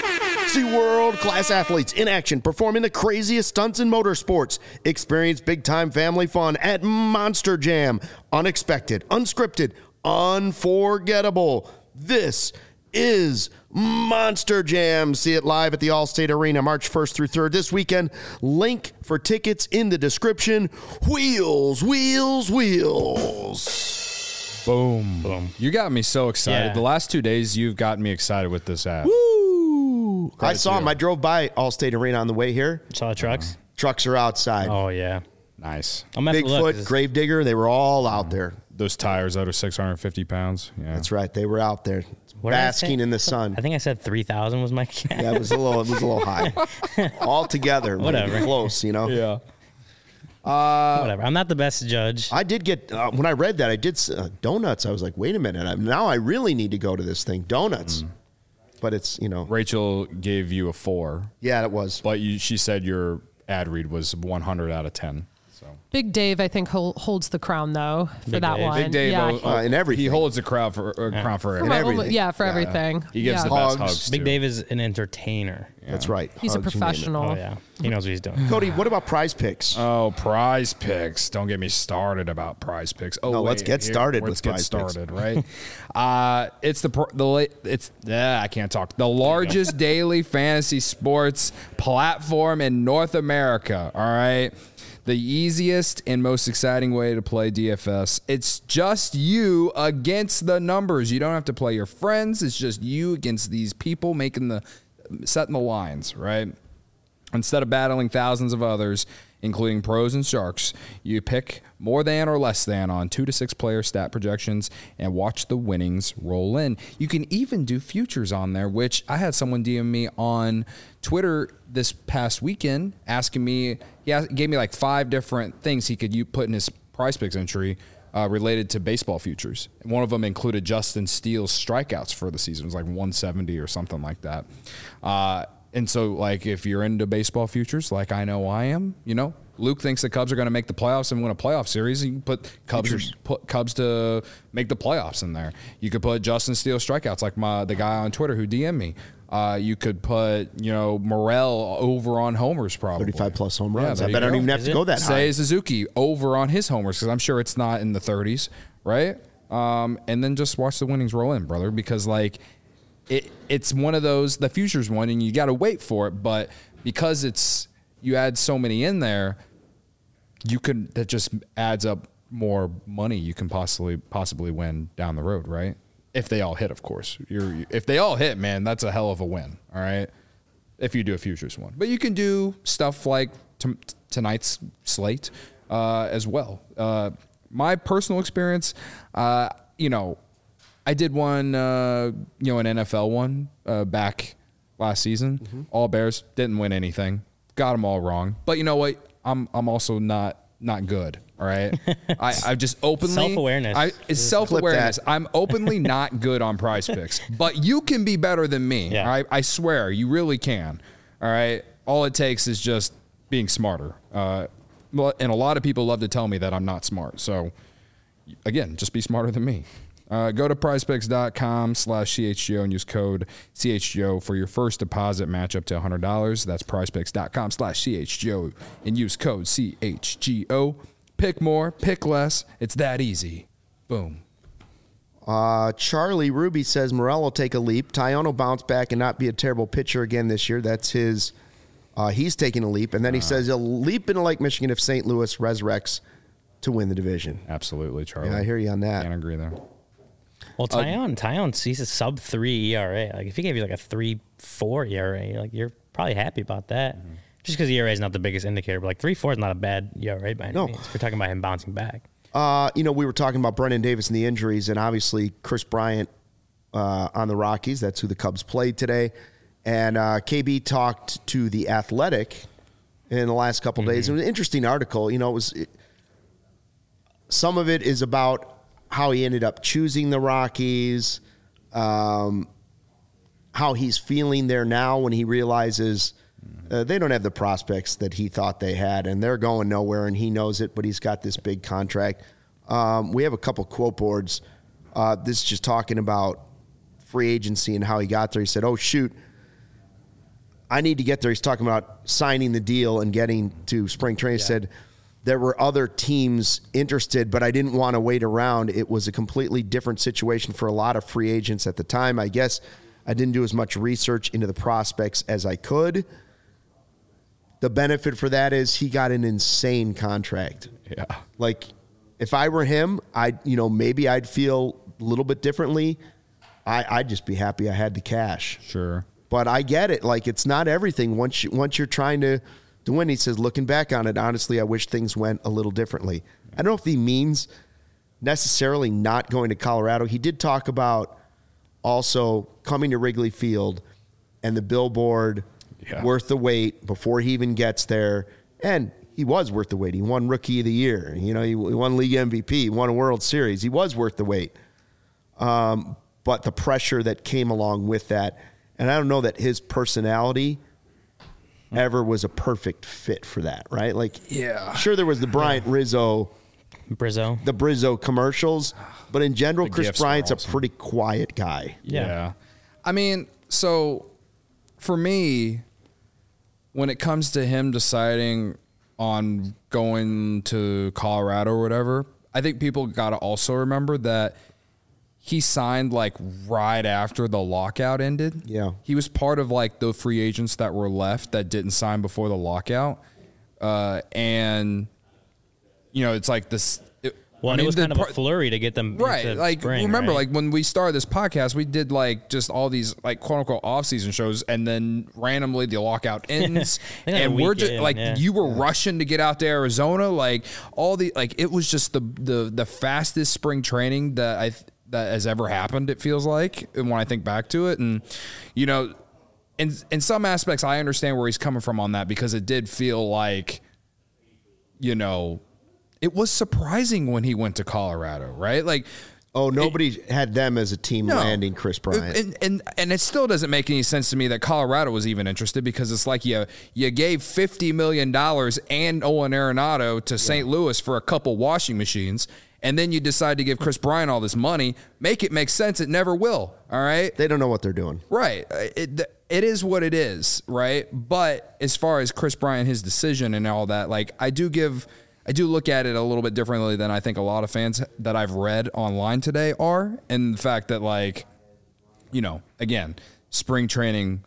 See world-class athletes in action performing the craziest stunts in motorsports. Experience big-time family fun at Monster Jam. Unexpected, unscripted, unforgettable. This is Monster Jam. See it live at the Allstate Arena March first through third this weekend. Link for tickets in the description. Wheels, wheels, wheels. Boom. Boom. You got me so excited. Yeah. The last two days, you've gotten me excited with this app. Woo! I Credit saw to him. you. I drove by Allstate Arena on the way here. Saw the trucks. Trucks are outside. Oh yeah. Nice. I'm gonna have to look, 'cause Bigfoot, it's- Gravedigger, they were all out there. Those tires that are six hundred fifty pounds. Yeah. That's right. They were out there what did I basking say? in the sun. I think I said three thousand was my guess. Yeah, it was a little, it was a little high. All together, Whatever. close. You know. Yeah. Whatever. I'm not the best judge. I did get uh, when I read that I did uh, donuts. I was like, wait a minute. I, now I really need to go to this thing. Donuts, but it's you know. Rachel gave you a four, Yeah, it was. but you, she said your ad read was one hundred out of ten. So Big Dave, I think, hol- holds the crown though for Big that Dave. one. Big Dave, yeah, oh, he- Uh, in everything. he holds the crowd for uh, crown for for everything. my- everything. yeah, for Yeah. everything. He gives yeah. the best Hugs. hugs. Big too. Dave is an entertainer. That's right. He's a Hugs, you name it. professional. Oh yeah, he knows what he's doing. Cody, what about prize picks? Oh, prize picks. Don't get me started about prize picks. Oh, No, let's wait, get here- started Let's with get prize picks. started, right? uh, it's the, pro- the la- it's, yeah, I can't talk. The largest daily fantasy sports platform in North America, all right? The easiest and most exciting way to play D F S. It's just you against the numbers. You don't have to play your friends. It's just you against these people making the setting the lines, right? Instead of battling thousands of others, including pros and sharks. You pick more than or less than on two to six player stat projections and watch the winnings roll in. You can even do futures on there, which I had someone D M me on Twitter this past weekend asking me, he asked, gave me like five different things he could you put in his PrizePicks entry uh, related to baseball futures. And one of them included Justin Steele's strikeouts for the season. It was like one seventy or something like that. Uh, and so, like, if you're into baseball futures, like I know I am, you know, Luke thinks the Cubs are going to make the playoffs and win a playoff series. You can put Cubs, put Cubs to make the playoffs in there. You could put Justin Steele strikeouts, like my the guy on Twitter who D M'd me. Uh, you could put, you know, Morel over on homers, probably thirty-five plus home runs. Yeah, I bet I don't even have Is to it? go that high. Say Suzuki over on his homers, because I'm sure it's not in the thirties, right? Um, and then just watch the winnings roll in, brother, because like it, it's one of those, the futures one, and you got to wait for it. But because it's you add so many in there, you could that just adds up more money you can possibly possibly win down the road, right? If they all hit, of course. You're if they all hit, man, that's a hell of a win. All right, if you do a futures one, but you can do stuff like t- tonight's slate uh, as well. Uh, my personal experience, uh, you know, I did one, uh, you know, an N F L one uh, back last season. Mm-hmm. All Bears, didn't win anything, got them all wrong. But you know what? I'm I'm also not not good. All right, I I just openly Self-awareness. I it's self awareness. I'm openly not good on PrizePicks, but you can be better than me. Yeah. All right, I swear you really can. All right, all it takes is just being smarter. Uh, and a lot of people love to tell me that I'm not smart. So again, just be smarter than me. Uh, go to prizepicks.com slash CHGO and use code C H G O for your first deposit match up to one hundred dollars. That's prizepicks.com slash CHGO and use code C H G O. Pick more, pick less. It's that easy. Boom. Uh, Charlie Ruby says Morel will take a leap. Tyone will bounce back and not be a terrible pitcher again this year. That's his. Uh, he's taking a leap. And then he uh, says he'll leap into Lake Michigan if Saint Louis resurrects to win the division. Absolutely, Charlie. Yeah, I hear you on that. Can't agree there. Well, Tyone, uh, Tyone sees a sub three E R A. Like if he gave you like a three four E R A, like you're probably happy about that. Mm-hmm. Just because E R A is not the biggest indicator, but like three four is not a bad E R A by any no. means. We're talking about him bouncing back. Uh, you know, we were talking about Brendan Davis and the injuries, and obviously Chris Bryant uh, on the Rockies. That's who the Cubs played today. And uh, K B talked to The Athletic in the last couple mm-hmm. days. It was an interesting article. You know, it was it, some of it is about how he ended up choosing the Rockies, um, how he's feeling there now when he realizes uh, they don't have the prospects that he thought they had, and they're going nowhere, and he knows it, but he's got this big contract. Um, we have a couple quote boards. Uh, this is just talking about free agency and how he got there. He said, oh, shoot, I need to get there. He's talking about signing the deal and getting to spring training. Yeah. He said, there were other teams interested, but I didn't want to wait around. It was a completely different situation for a lot of free agents at the time. I guess I didn't do as much research into the prospects as I could. The benefit for that is he got an insane contract. Yeah. Like, if I were him, I'd, you know, maybe I'd feel a little bit differently. I, I'd just be happy I had the cash. Sure. But I get it. Like, it's not everything. Once you, once you're trying to, to win, he says, looking back on it, honestly, I wish things went a little differently. I don't know if he means necessarily not going to Colorado. He did talk about also coming to Wrigley Field and the billboard yeah. worth the wait before he even gets there. And he was worth the wait. He won Rookie of the Year. You know, he won League M V P. He won a World Series. He was worth the wait. Um, but the pressure that came along with that, and I don't know that his personality ever was a perfect fit for that, right? Like, yeah, sure, there was the Bryant yeah. Rizzo, Brizzo, the Brizzo commercials, but in general, the Chris Bryant's awesome. a pretty quiet guy. Yeah. yeah. I mean, so for me, when it comes to him deciding on going to Colorado or whatever, I think people got to also remember that he signed like right after the lockout ended. Yeah. He was part of like the free agents that were left that didn't sign before the lockout. Uh, and, you know, it's like this, it, Well, I and mean, it was the kind of part- a flurry to get them right. into Like spring, remember, right? like when we started this podcast, we did like just all these like quote unquote off season shows, and then randomly the lockout ends, They got a and we're week just in, like yeah. you were rushing to get out to Arizona, like all the like it was just the the the fastest spring training that I that has ever happened. It feels like, and when I think back to it, and you know, in in some aspects, I understand where he's coming from on that because it did feel like, you know. It was surprising when he went to Colorado, right? Like, Oh, nobody it, had them as a team no. landing Chris Bryant. And, and and it still doesn't make any sense to me that Colorado was even interested because it's like you you gave fifty million dollars and Owen Arenado to Saint Louis for a couple washing machines, and then you decide to give Chris Bryant all this money. Make it make sense. It never will, all right? They don't know what they're doing. Right. It, it is what it is, right? But as far as Chris Bryant, his decision and all that, like I do give... I do look at it a little bit differently than I think a lot of fans that I've read online today are. And the fact that, like, you know, again, spring training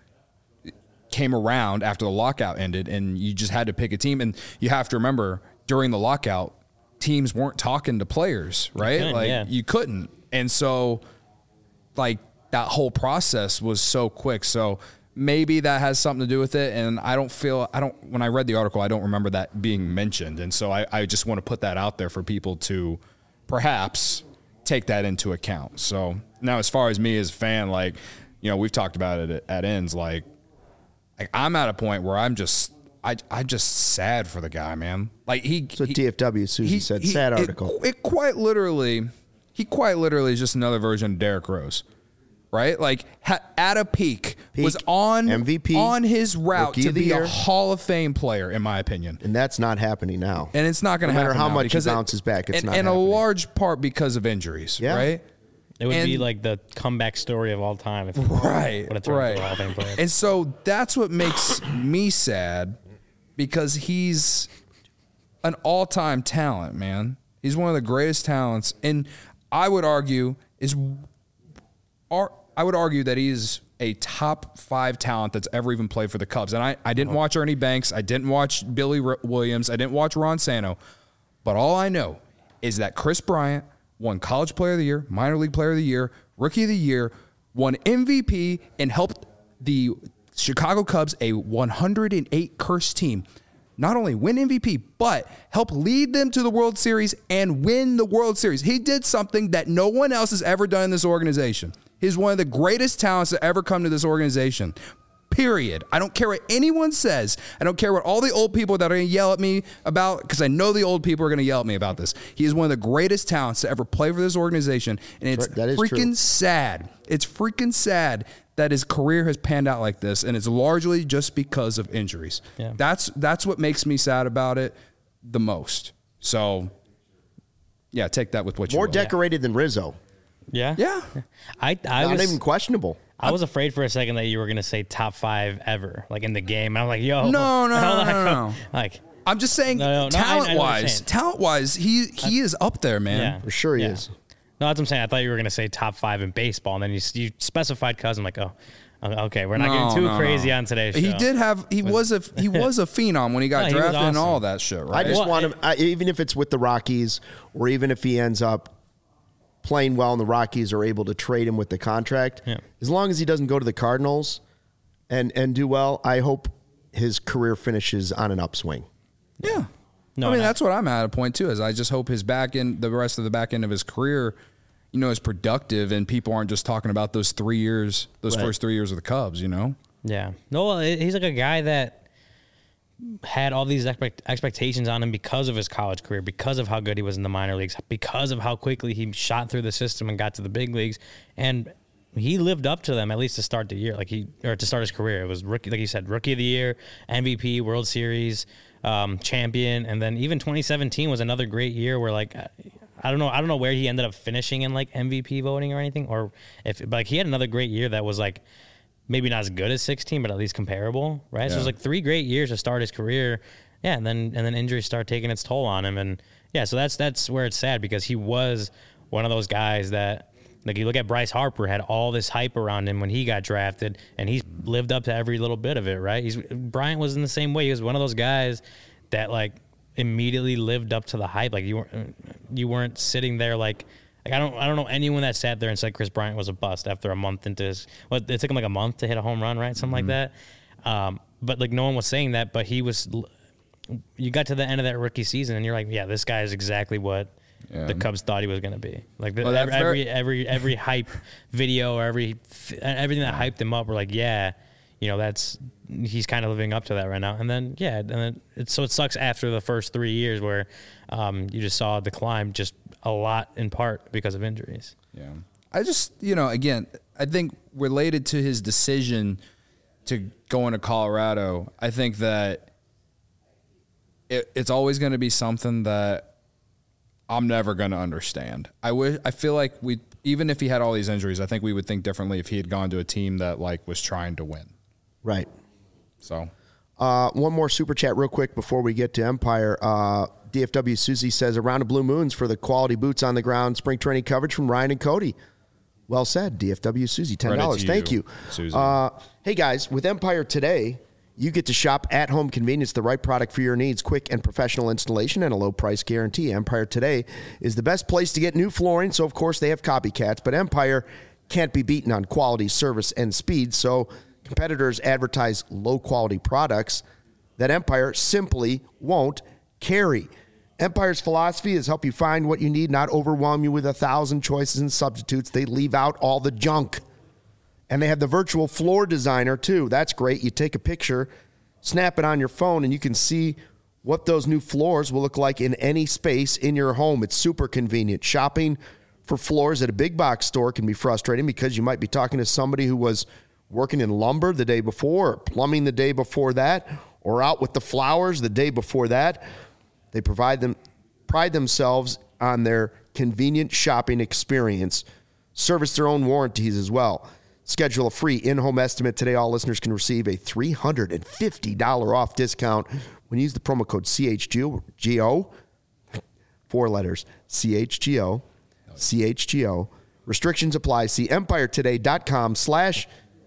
came around after the lockout ended and you just had to pick a team. And you have to remember, during the lockout, teams weren't talking to players, right? couldn't, Like, yeah. you couldn't. And so, like, that whole process was so quick. So, maybe that has something to do with it, and I don't feel I don't. When I read the article, I don't remember that being mentioned, and so I, I just want to put that out there for people to perhaps take that into account. So now, as far as me as a fan, like you know, we've talked about it at, at ends. Like, like I'm at a point where I'm just I I'm just sad for the guy, man. Like he. So he, T F W, Susie he- said, he- sad it- article. It, quite literally, he quite literally is just another version of Derrick Rose. Right, like ha- at a peak, Peak, was on M V P, on his route Rookie to of the be a Year. Hall of Fame player, in my opinion. And that's not happening now. And it's not going to No matter happen how now much he because it- bounces back, it's and, not and a happening. large part because of injuries. Yeah. Right. It would be and- like the comeback story of all time. If Right. Would have turned Right. into a Hall of Fame player. And so that's what makes me sad because he's an all-time talent, man. He's one of the greatest talents, and I would argue is, ar- I would argue that he's a top five talent that's ever even played for the Cubs. And I, I didn't watch Ernie Banks, I didn't watch Billy R- Williams, I didn't watch Ron Santo, but all I know is that Chris Bryant won College Player of the Year, Minor League Player of the Year, Rookie of the Year, won M V P, and helped the Chicago Cubs, a one hundred eight cursed team, not only win M V P, but help lead them to the World Series and win the World Series. He did something that no one else has ever done in this organization. He's one of the greatest talents to ever come to this organization. Period. I don't care what anyone says. I don't care what all the old people that are going to yell at me about, because I know the old people are going to yell at me about this. He is one of the greatest talents to ever play for this organization, and it's That is freaking true. sad. It's freaking sad that his career has panned out like this, and it's largely just because of injuries. Yeah. That's that's what makes me sad about it the most. So, yeah, take that with what you More will. decorated than Rizzo. yeah. Yeah. I I Not was even questionable. I was afraid for a second that you were gonna say top five ever, like in the game. And I'm like, yo, No, no, how no, the no, heck- no. Like, I'm just saying, No, no, no, I- I know what talent you're wise, saying. talent wise, he he is up there, man. yeah, For sure he yeah. is. No, that's what I'm saying. I thought you were gonna say top five in baseball, and then you you specified Cubs. I'm like, oh, okay, we're not No, getting too no, crazy no. on today's show. He did have he was a he was a phenom when he got No, he was drafted and awesome. all that shit, I right? just Well, want and- him, I, even if it's with the Rockies, or even if he ends up playing well and the Rockies are able to trade him with the contract, Yeah. as long as he doesn't go to the Cardinals and, and do well, I hope his career finishes on an upswing. Yeah. No, I mean, no. that's what I'm at a point too. Is I just hope his back end, the rest of the back end of his career, you know, is productive, and people aren't just talking about those three years, those Right. first three years of the Cubs. You know, Yeah. No, he's like a guy that had all these expect- expectations on him because of his college career, because of how good he was in the minor leagues, because of how quickly he shot through the system and got to the big leagues. And he lived up to them, at least to start the year, like he, or to start his career. It was rookie, like you said, rookie of the year, M V P, World Series, um, champion. And then even twenty seventeen was another great year where, like, I don't know, I don't know where he ended up finishing in like M V P voting or anything, or if, but like he had another great year that was like, maybe not as good as sixteen, but at least comparable, right? So it was Yeah. like three great years to start his career. Yeah, and then and then injuries start taking its toll on him. And yeah, so that's that's where it's sad, because he was one of those guys that, like, you look at Bryce Harper, had all this hype around him when he got drafted, and he's lived up to every little bit of it, right? He's Bryant was in the same way. He was one of those guys that, like, immediately lived up to the hype. Like you weren't you weren't sitting there like like I don't I don't know anyone that sat there and said Chris Bryant was a bust after a month into his. Well, it took him like a month to hit a home run, right? Something mm-hmm. like that. Um, but like no one was saying that. But he was. You got to the end of that rookie season, and you're like, yeah, this guy is exactly what. Yeah. The Cubs thought he was going to be like the, well, every, every every every hype video or every everything that hyped him up. We're like, yeah, you know, that's he's kind of living up to that right now. And then yeah, and then it, so it sucks after the first three years where um, you just saw a decline, just a lot in part because of injuries. Yeah, I just you know again, I think related to his decision to go into Colorado, I think that it, it's always going to be something that. I'm never going to understand. I wish, I feel like we, even if he had all these injuries, I think we would think differently if he had gone to a team that like was trying to win. Right. So, uh, one more super chat real quick before we get to Empire. Uh, D F W Susie says a round of blue moons for the quality boots on the ground spring training coverage from Ryan and Cody. Well said, D F W Susie, ten dollars. Thank you. Susie. Uh, hey guys, with Empire today, you get to shop at-home convenience, the right product for your needs, quick and professional installation, and a low-price guarantee. Empire Today is the best place to get new flooring, so of course they have copycats, but Empire can't be beaten on quality, service, and speed, so competitors advertise low-quality products that Empire simply won't carry. Empire's philosophy is help you find what you need, not overwhelm you with a thousand choices and substitutes. They leave out all the junk. And they have the virtual floor designer, too. That's great. You take a picture, snap it on your phone, and you can see what those new floors will look like in any space in your home. It's super convenient. Shopping for floors at a big box store can be frustrating because you might be talking to somebody who was working in lumber the day before, or plumbing the day before that, or out with the flowers the day before that. They provide them, pride themselves on their convenient shopping experience, service their own warranties as well. Schedule a free in-home estimate today. All listeners can receive a three hundred fifty dollars off discount when you use the promo code C H G O. Four letters, C H G O, C H G O. Restrictions apply. See empiretoday.com slash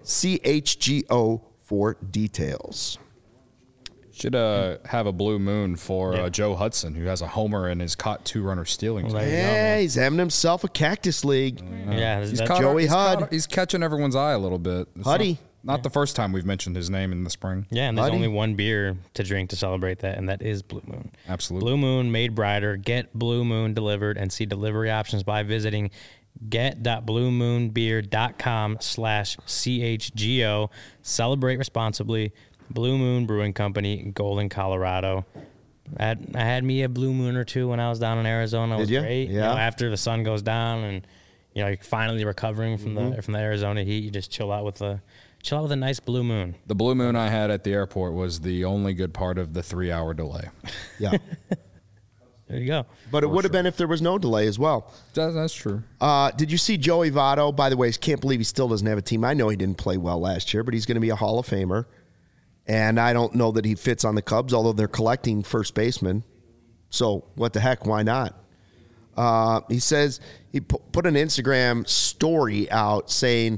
CHGO for details. Should uh, have a blue moon for yeah. uh, Joe Hudson, who has a homer and has caught two runner stealing. Well, yeah, he's having himself a cactus league. Yeah, yeah he's that, caught, Joey he's Hud. Caught, he's catching everyone's eye a little bit. It's Huddy. Not, not the first time we've mentioned his name in the spring. Yeah, and there's Huddy. only one beer to drink to celebrate that, and that is Blue Moon. Absolutely. Blue Moon made brighter. Get Blue Moon delivered and see delivery options by visiting get.bluemoonbeer.com slash CHGO. Celebrate responsibly. Blue Moon Brewing Company, Golden, Colorado. I had, I had me a Blue Moon or two when I was down in Arizona. It was Did you? great. Yeah. You know, after the sun goes down and you know you're finally recovering from mm-hmm. the from the Arizona heat, you just chill out with a chill out with a nice Blue Moon. The Blue Moon I had at the airport was the only good part of the three-hour delay. Yeah. There you go. But it would have been if there was no delay as well. That, that's true. Uh, did you see Joey Votto? By the way, I can't believe he still doesn't have a team. I know he didn't play well last year, but he's going to be a Hall of Famer. And I don't know that he fits on the Cubs, although they're collecting first baseman. So what the heck? Why not? Uh, he says he pu- put an Instagram story out saying,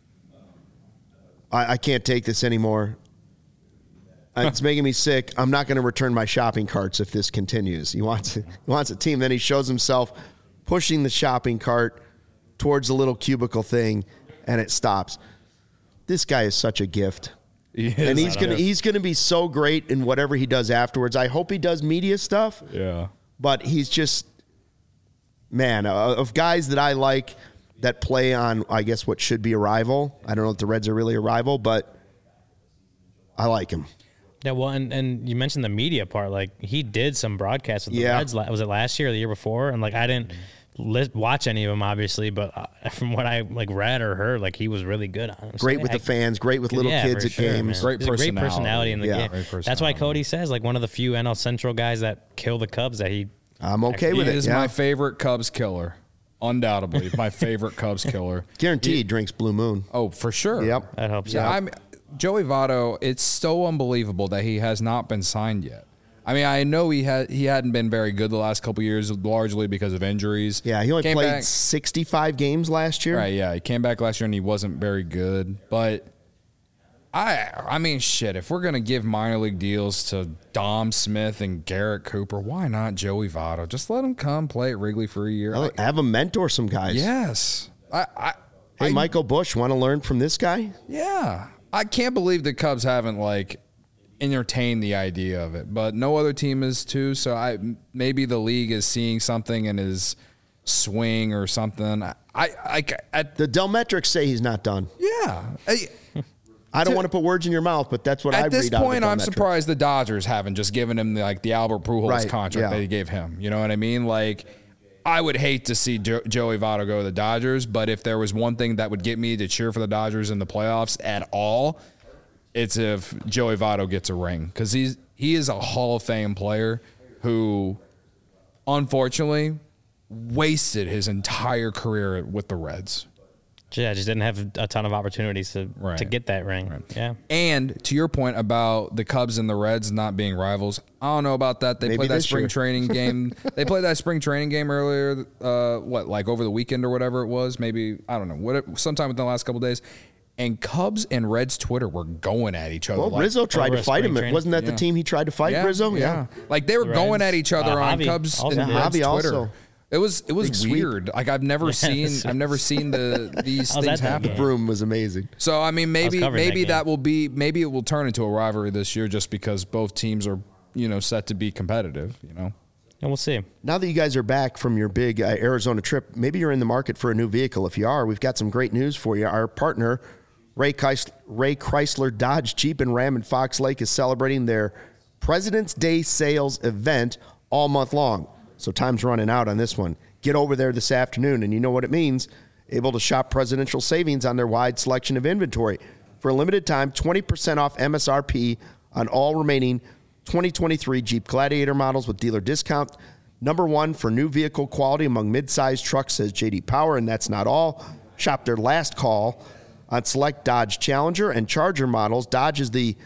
I, I can't take this anymore. It's making me sick. I'm not going to return my shopping carts if this continues. He wants, he wants a team. Then he shows himself pushing the shopping cart towards the little cubicle thing, and it stops. This guy is such a gift. He is, and he's gonna he's gonna be so great in whatever he does afterwards. I hope he does media stuff. Yeah. But he's just, man, uh, of guys that I like that play on, I guess, what should be a rival. I don't know if the Reds are really a rival, but I like him. Yeah, well, and, and you mentioned the media part. Like, he did some broadcasts with the Yeah. Reds. Was it last year or the year before? And, like, I didn't li- watch any of them, obviously, but uh, from what I, like, read or heard, like, he was really good on it. Great with the fans, great with little yeah, kids for at sure, games. man. Great He's a personality. Great personality in the Yeah. game. Great That's why personality. Cody says, like, one of the few N L Central guys that kill the Cubs that he I'm okay Actually, with He it. is Yeah. my favorite Cubs killer. Undoubtedly. My favorite Cubs killer. Guaranteed he drinks Blue Moon. Oh, for sure. Yep. that helps Yeah, out. I'm Joey Votto. It's so unbelievable that he has not been signed yet. I mean, I know he had he hadn't been very good the last couple of years, largely because of injuries. Yeah, he only Came played back- sixty-five games last year. Right, yeah. He came back last year and he wasn't very good. But I I mean, shit, if we're going to give minor league deals to Dom Smith and Garrett Cooper, why not Joey Votto? Just let him come play at Wrigley for a year. Well, I, have him mentor some guys. yes. I, I Hey, I, Michael Busch, want to learn from this guy? Yeah. I can't believe the Cubs haven't, like, entertained the idea of it, but no other team is too. So I maybe the league is seeing something in his swing or something. I, I, I The Delmetrics say he's not done. yeah. I, I don't To- want to put words in your mouth, but that's what I At read this out of point, the I'm Delmetrics. surprised the Dodgers haven't just given him the, like the Albert Pujols Right, contract yeah. that they gave him. You know what I mean? Like, I would hate to see jo- Joey Votto go to the Dodgers, but if there was one thing that would get me to cheer for the Dodgers in the playoffs at all, it's if Joey Votto gets a ring, because he's he is a Hall of Fame player who, unfortunately, wasted his entire career with the Reds. Yeah, just didn't have a ton of opportunities to Right. to get that ring. Yeah. And to your point about the Cubs and the Reds not being rivals, I don't know about that. They Maybe played that this spring year. training game. They played that spring training game earlier, uh, what, like over the weekend or whatever it was? Maybe, I don't know, what, sometime within the last couple of days. And Cubs and Reds Twitter were going at each other. Well, like, Rizzo tried over to a fight spring him. training. Wasn't that Yeah. the team he tried to fight, yeah, Rizzo? Yeah. Like they were The going Reds. at each other Uh, on Javi Cubs also and did. Reds Javi Twitter. also. It was it was Big sweep. weird. Like I've never seen I've never seen the these I was things at that happen. game. Broom was amazing. So I mean, maybe covering maybe that that, game. will be maybe it will turn into a rivalry this year, just because both teams are you know set to be competitive. You know, And we'll see. Now that you guys are back from your big uh, Arizona trip, maybe you're in the market for a new vehicle. If you are, we've got some great news for you. Our partner, Ray Chrysler, Ray Chrysler Dodge Jeep and Ram in Fox Lake, is celebrating their President's Day sales event all month long. So time's running out on this one. Get over there this afternoon, and you know what it means. Able to shop presidential savings on their wide selection of inventory. For a limited time, twenty percent off M S R P on all remaining twenty twenty-three Jeep Gladiator models with dealer discount. Number one for new vehicle quality among mid-sized trucks, says J D Power, and that's not all. Shop their last call on select Dodge Challenger and Charger models. Dodge is the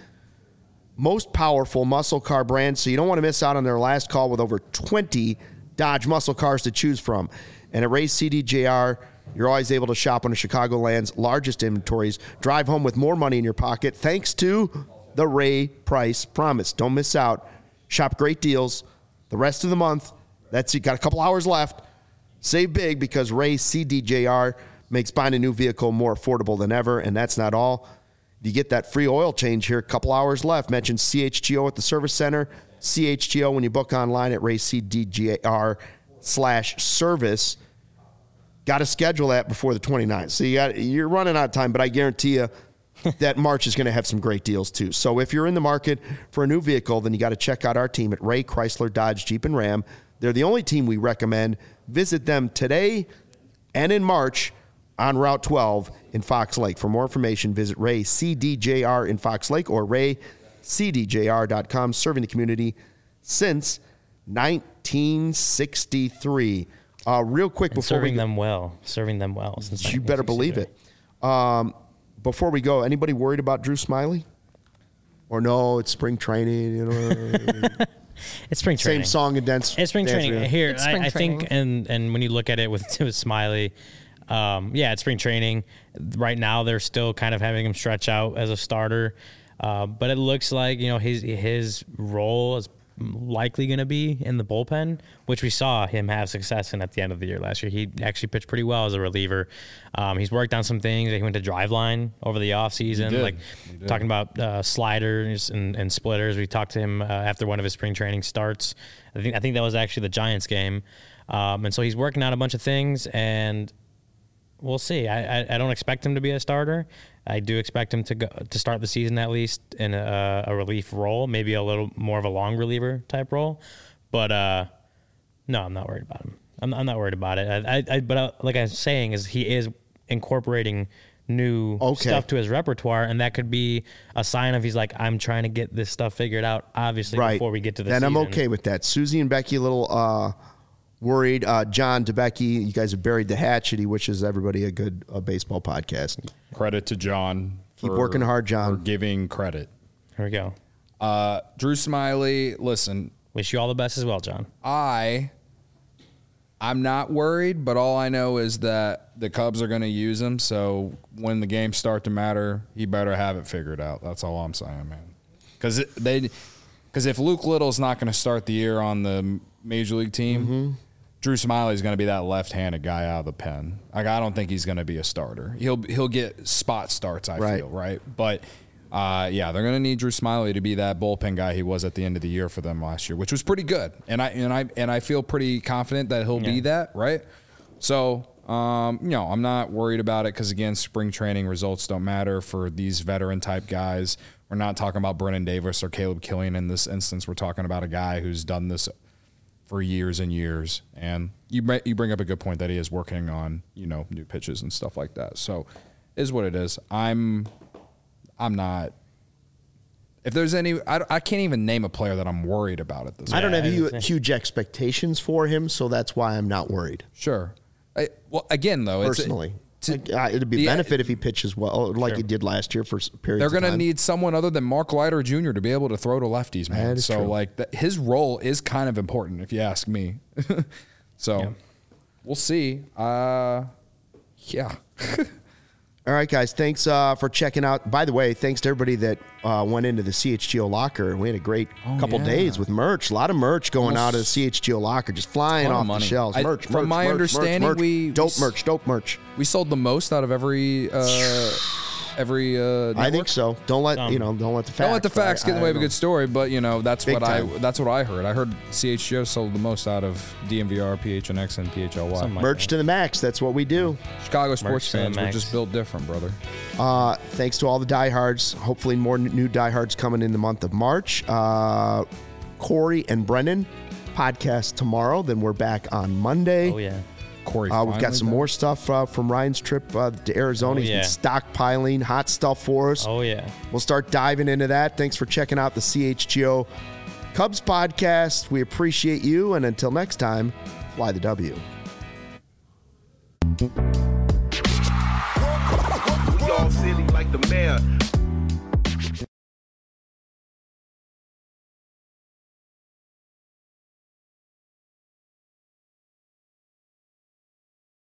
most powerful muscle car brand, so you don't want to miss out on their last call with over twenty Dodge muscle cars to choose from. And at Ray's C D J R, you're always able to shop one of Chicagoland's largest inventories. Drive home with more money in your pocket thanks to the Ray Price Promise. Don't miss out. Shop great deals the rest of the month. That's you got a couple hours left. Save big because Ray's C D J R makes buying a new vehicle more affordable than ever, and that's not all. You get that free oil change here. A couple hours left. Mention C H G O at the service center. C H G O when you book online at raycdjr slash service. Got to schedule that before the twenty-ninth. So you got you're running out of time, but I guarantee you that March is going to have some great deals too. So if you're in the market for a new vehicle, then you got to check out our team at Ray Chrysler Dodge Jeep and Ram. They're the only team we recommend. Visit them today and in March on Route twelve in Fox Lake. For more information, visit Ray C D J R in Fox Lake or ray c d j r dot com, serving the community since nineteen sixty-three. Uh, real quick And before serving we go, them well. Serving them well. Since you better believe it. Um, before we go, anybody worried about Drew Smiley? Or no, it's spring training. You know, It's spring same training. song and dance. It's spring dance training. reel. Here, It's I, spring I think, training. and and when you look at it with, with Smiley, um, yeah, it's spring training. Right now, they're still kind of having him stretch out as a starter, uh, but it looks like you know his his role is likely going to be in the bullpen, which we saw him have success in at the end of the year last year. He actually pitched pretty well as a reliever. Um, he's worked on some things. He went to Driveline over the offseason, did. like He did. talking about uh, sliders and, and splitters. We talked to him uh, after one of his spring training starts. I think I think that was actually the Giants game. Um, and so he's working on a bunch of things, and we'll see. I, I, I don't expect him to be a starter. I do expect him to go to start the season at least in a, a relief role, maybe a little more of a long reliever type role. But uh, no, I'm not worried about him. I'm, I'm not worried about it. I, I, I but uh, like I was saying, is he is incorporating new Okay. stuff to his repertoire, and that could be a sign of he's like, I'm trying to get this stuff figured out. Obviously, Right. before we get to the then season. I'm okay with that. Susie and Becky a little uh, worried. Uh, John DeBecky, you guys have buried the hatchet. He wishes everybody a good uh, baseball podcast. credit to John. Keep for- working hard, John. For giving credit. Here we go. Uh, Drew Smiley, listen, Wish you all the best as well, John. I I'm not worried, but all I know is that the Cubs are going to use him. So when the games start to matter, he better have it figured out. That's all I'm saying, man. Because they, because if Luke Little's not going to start the year on the major league team, mm-hmm. Drew Smiley's going to be that left-handed guy out of the pen. Like I don't think he's going to be a starter. He'll he'll get spot starts. I right. feel right, but. Uh, yeah, they're going to need Drew Smiley to be that bullpen guy he was at the end of the year for them last year, which was pretty good. And I and I and I feel pretty confident that he'll yeah. be that, right? So, um, you know, I'm not worried about it because again, spring training results don't matter for these veteran type guys. We're not talking about Brennan Davis or Caleb Killian in this instance. We're talking about a guy who's done this for years and years. And you you bring up a good point that he is working on, you know, new pitches and stuff like that. So, is what it is. I'm. I'm not. If there's any, I, I can't even name a player that I'm worried about at this. I don't have huge, huge expectations for him, so that's why I'm not worried. Sure. I, well, again though, personally, it's a, to, uh, it'd be the, benefit if he pitches well, like sure. he did last year for periods. They're going to need someone other than Mark Leiter Junior to be able to throw to lefties, man. That is so true. like that, his role is kind of important, if you ask me. so yeah. we'll see. Uh, yeah. All right, guys. Thanks uh, for checking out. By the way, thanks to everybody that uh, went into the C H G O locker. We had a great oh, couple yeah. days with merch. A lot of merch going Almost out of the C H G O locker, just flying off the shelves. I, merch, From merch, my merch, understanding, merch, merch. we dope we, merch, dope merch. We sold the most out of every. Uh, Every uh, I think so. Don't let um, you know. Don't let the facts. Don't let the facts I, get in the way of a know. good story. But you know that's Big what time. I that's what I heard. I heard C H G O sold the most out of D M V R, P H N X, and P H L Y. Like merch that. to the max. That's what we do. Chicago sports merch fans we're just built different, brother. Uh, thanks to all the diehards. Hopefully, more new diehards coming in the month of March. Uh, Corey and Brennan podcast tomorrow. Then we're back on Monday. Oh yeah. Corey, uh, we've got some back. more stuff uh, from Ryan's trip uh, to Arizona. Oh, He's yeah. been stockpiling hot stuff for us. Oh, yeah. We'll start diving into that. Thanks for checking out the C H G O Cubs podcast. We appreciate you. And until next time, fly the W. We all silly like the mayor.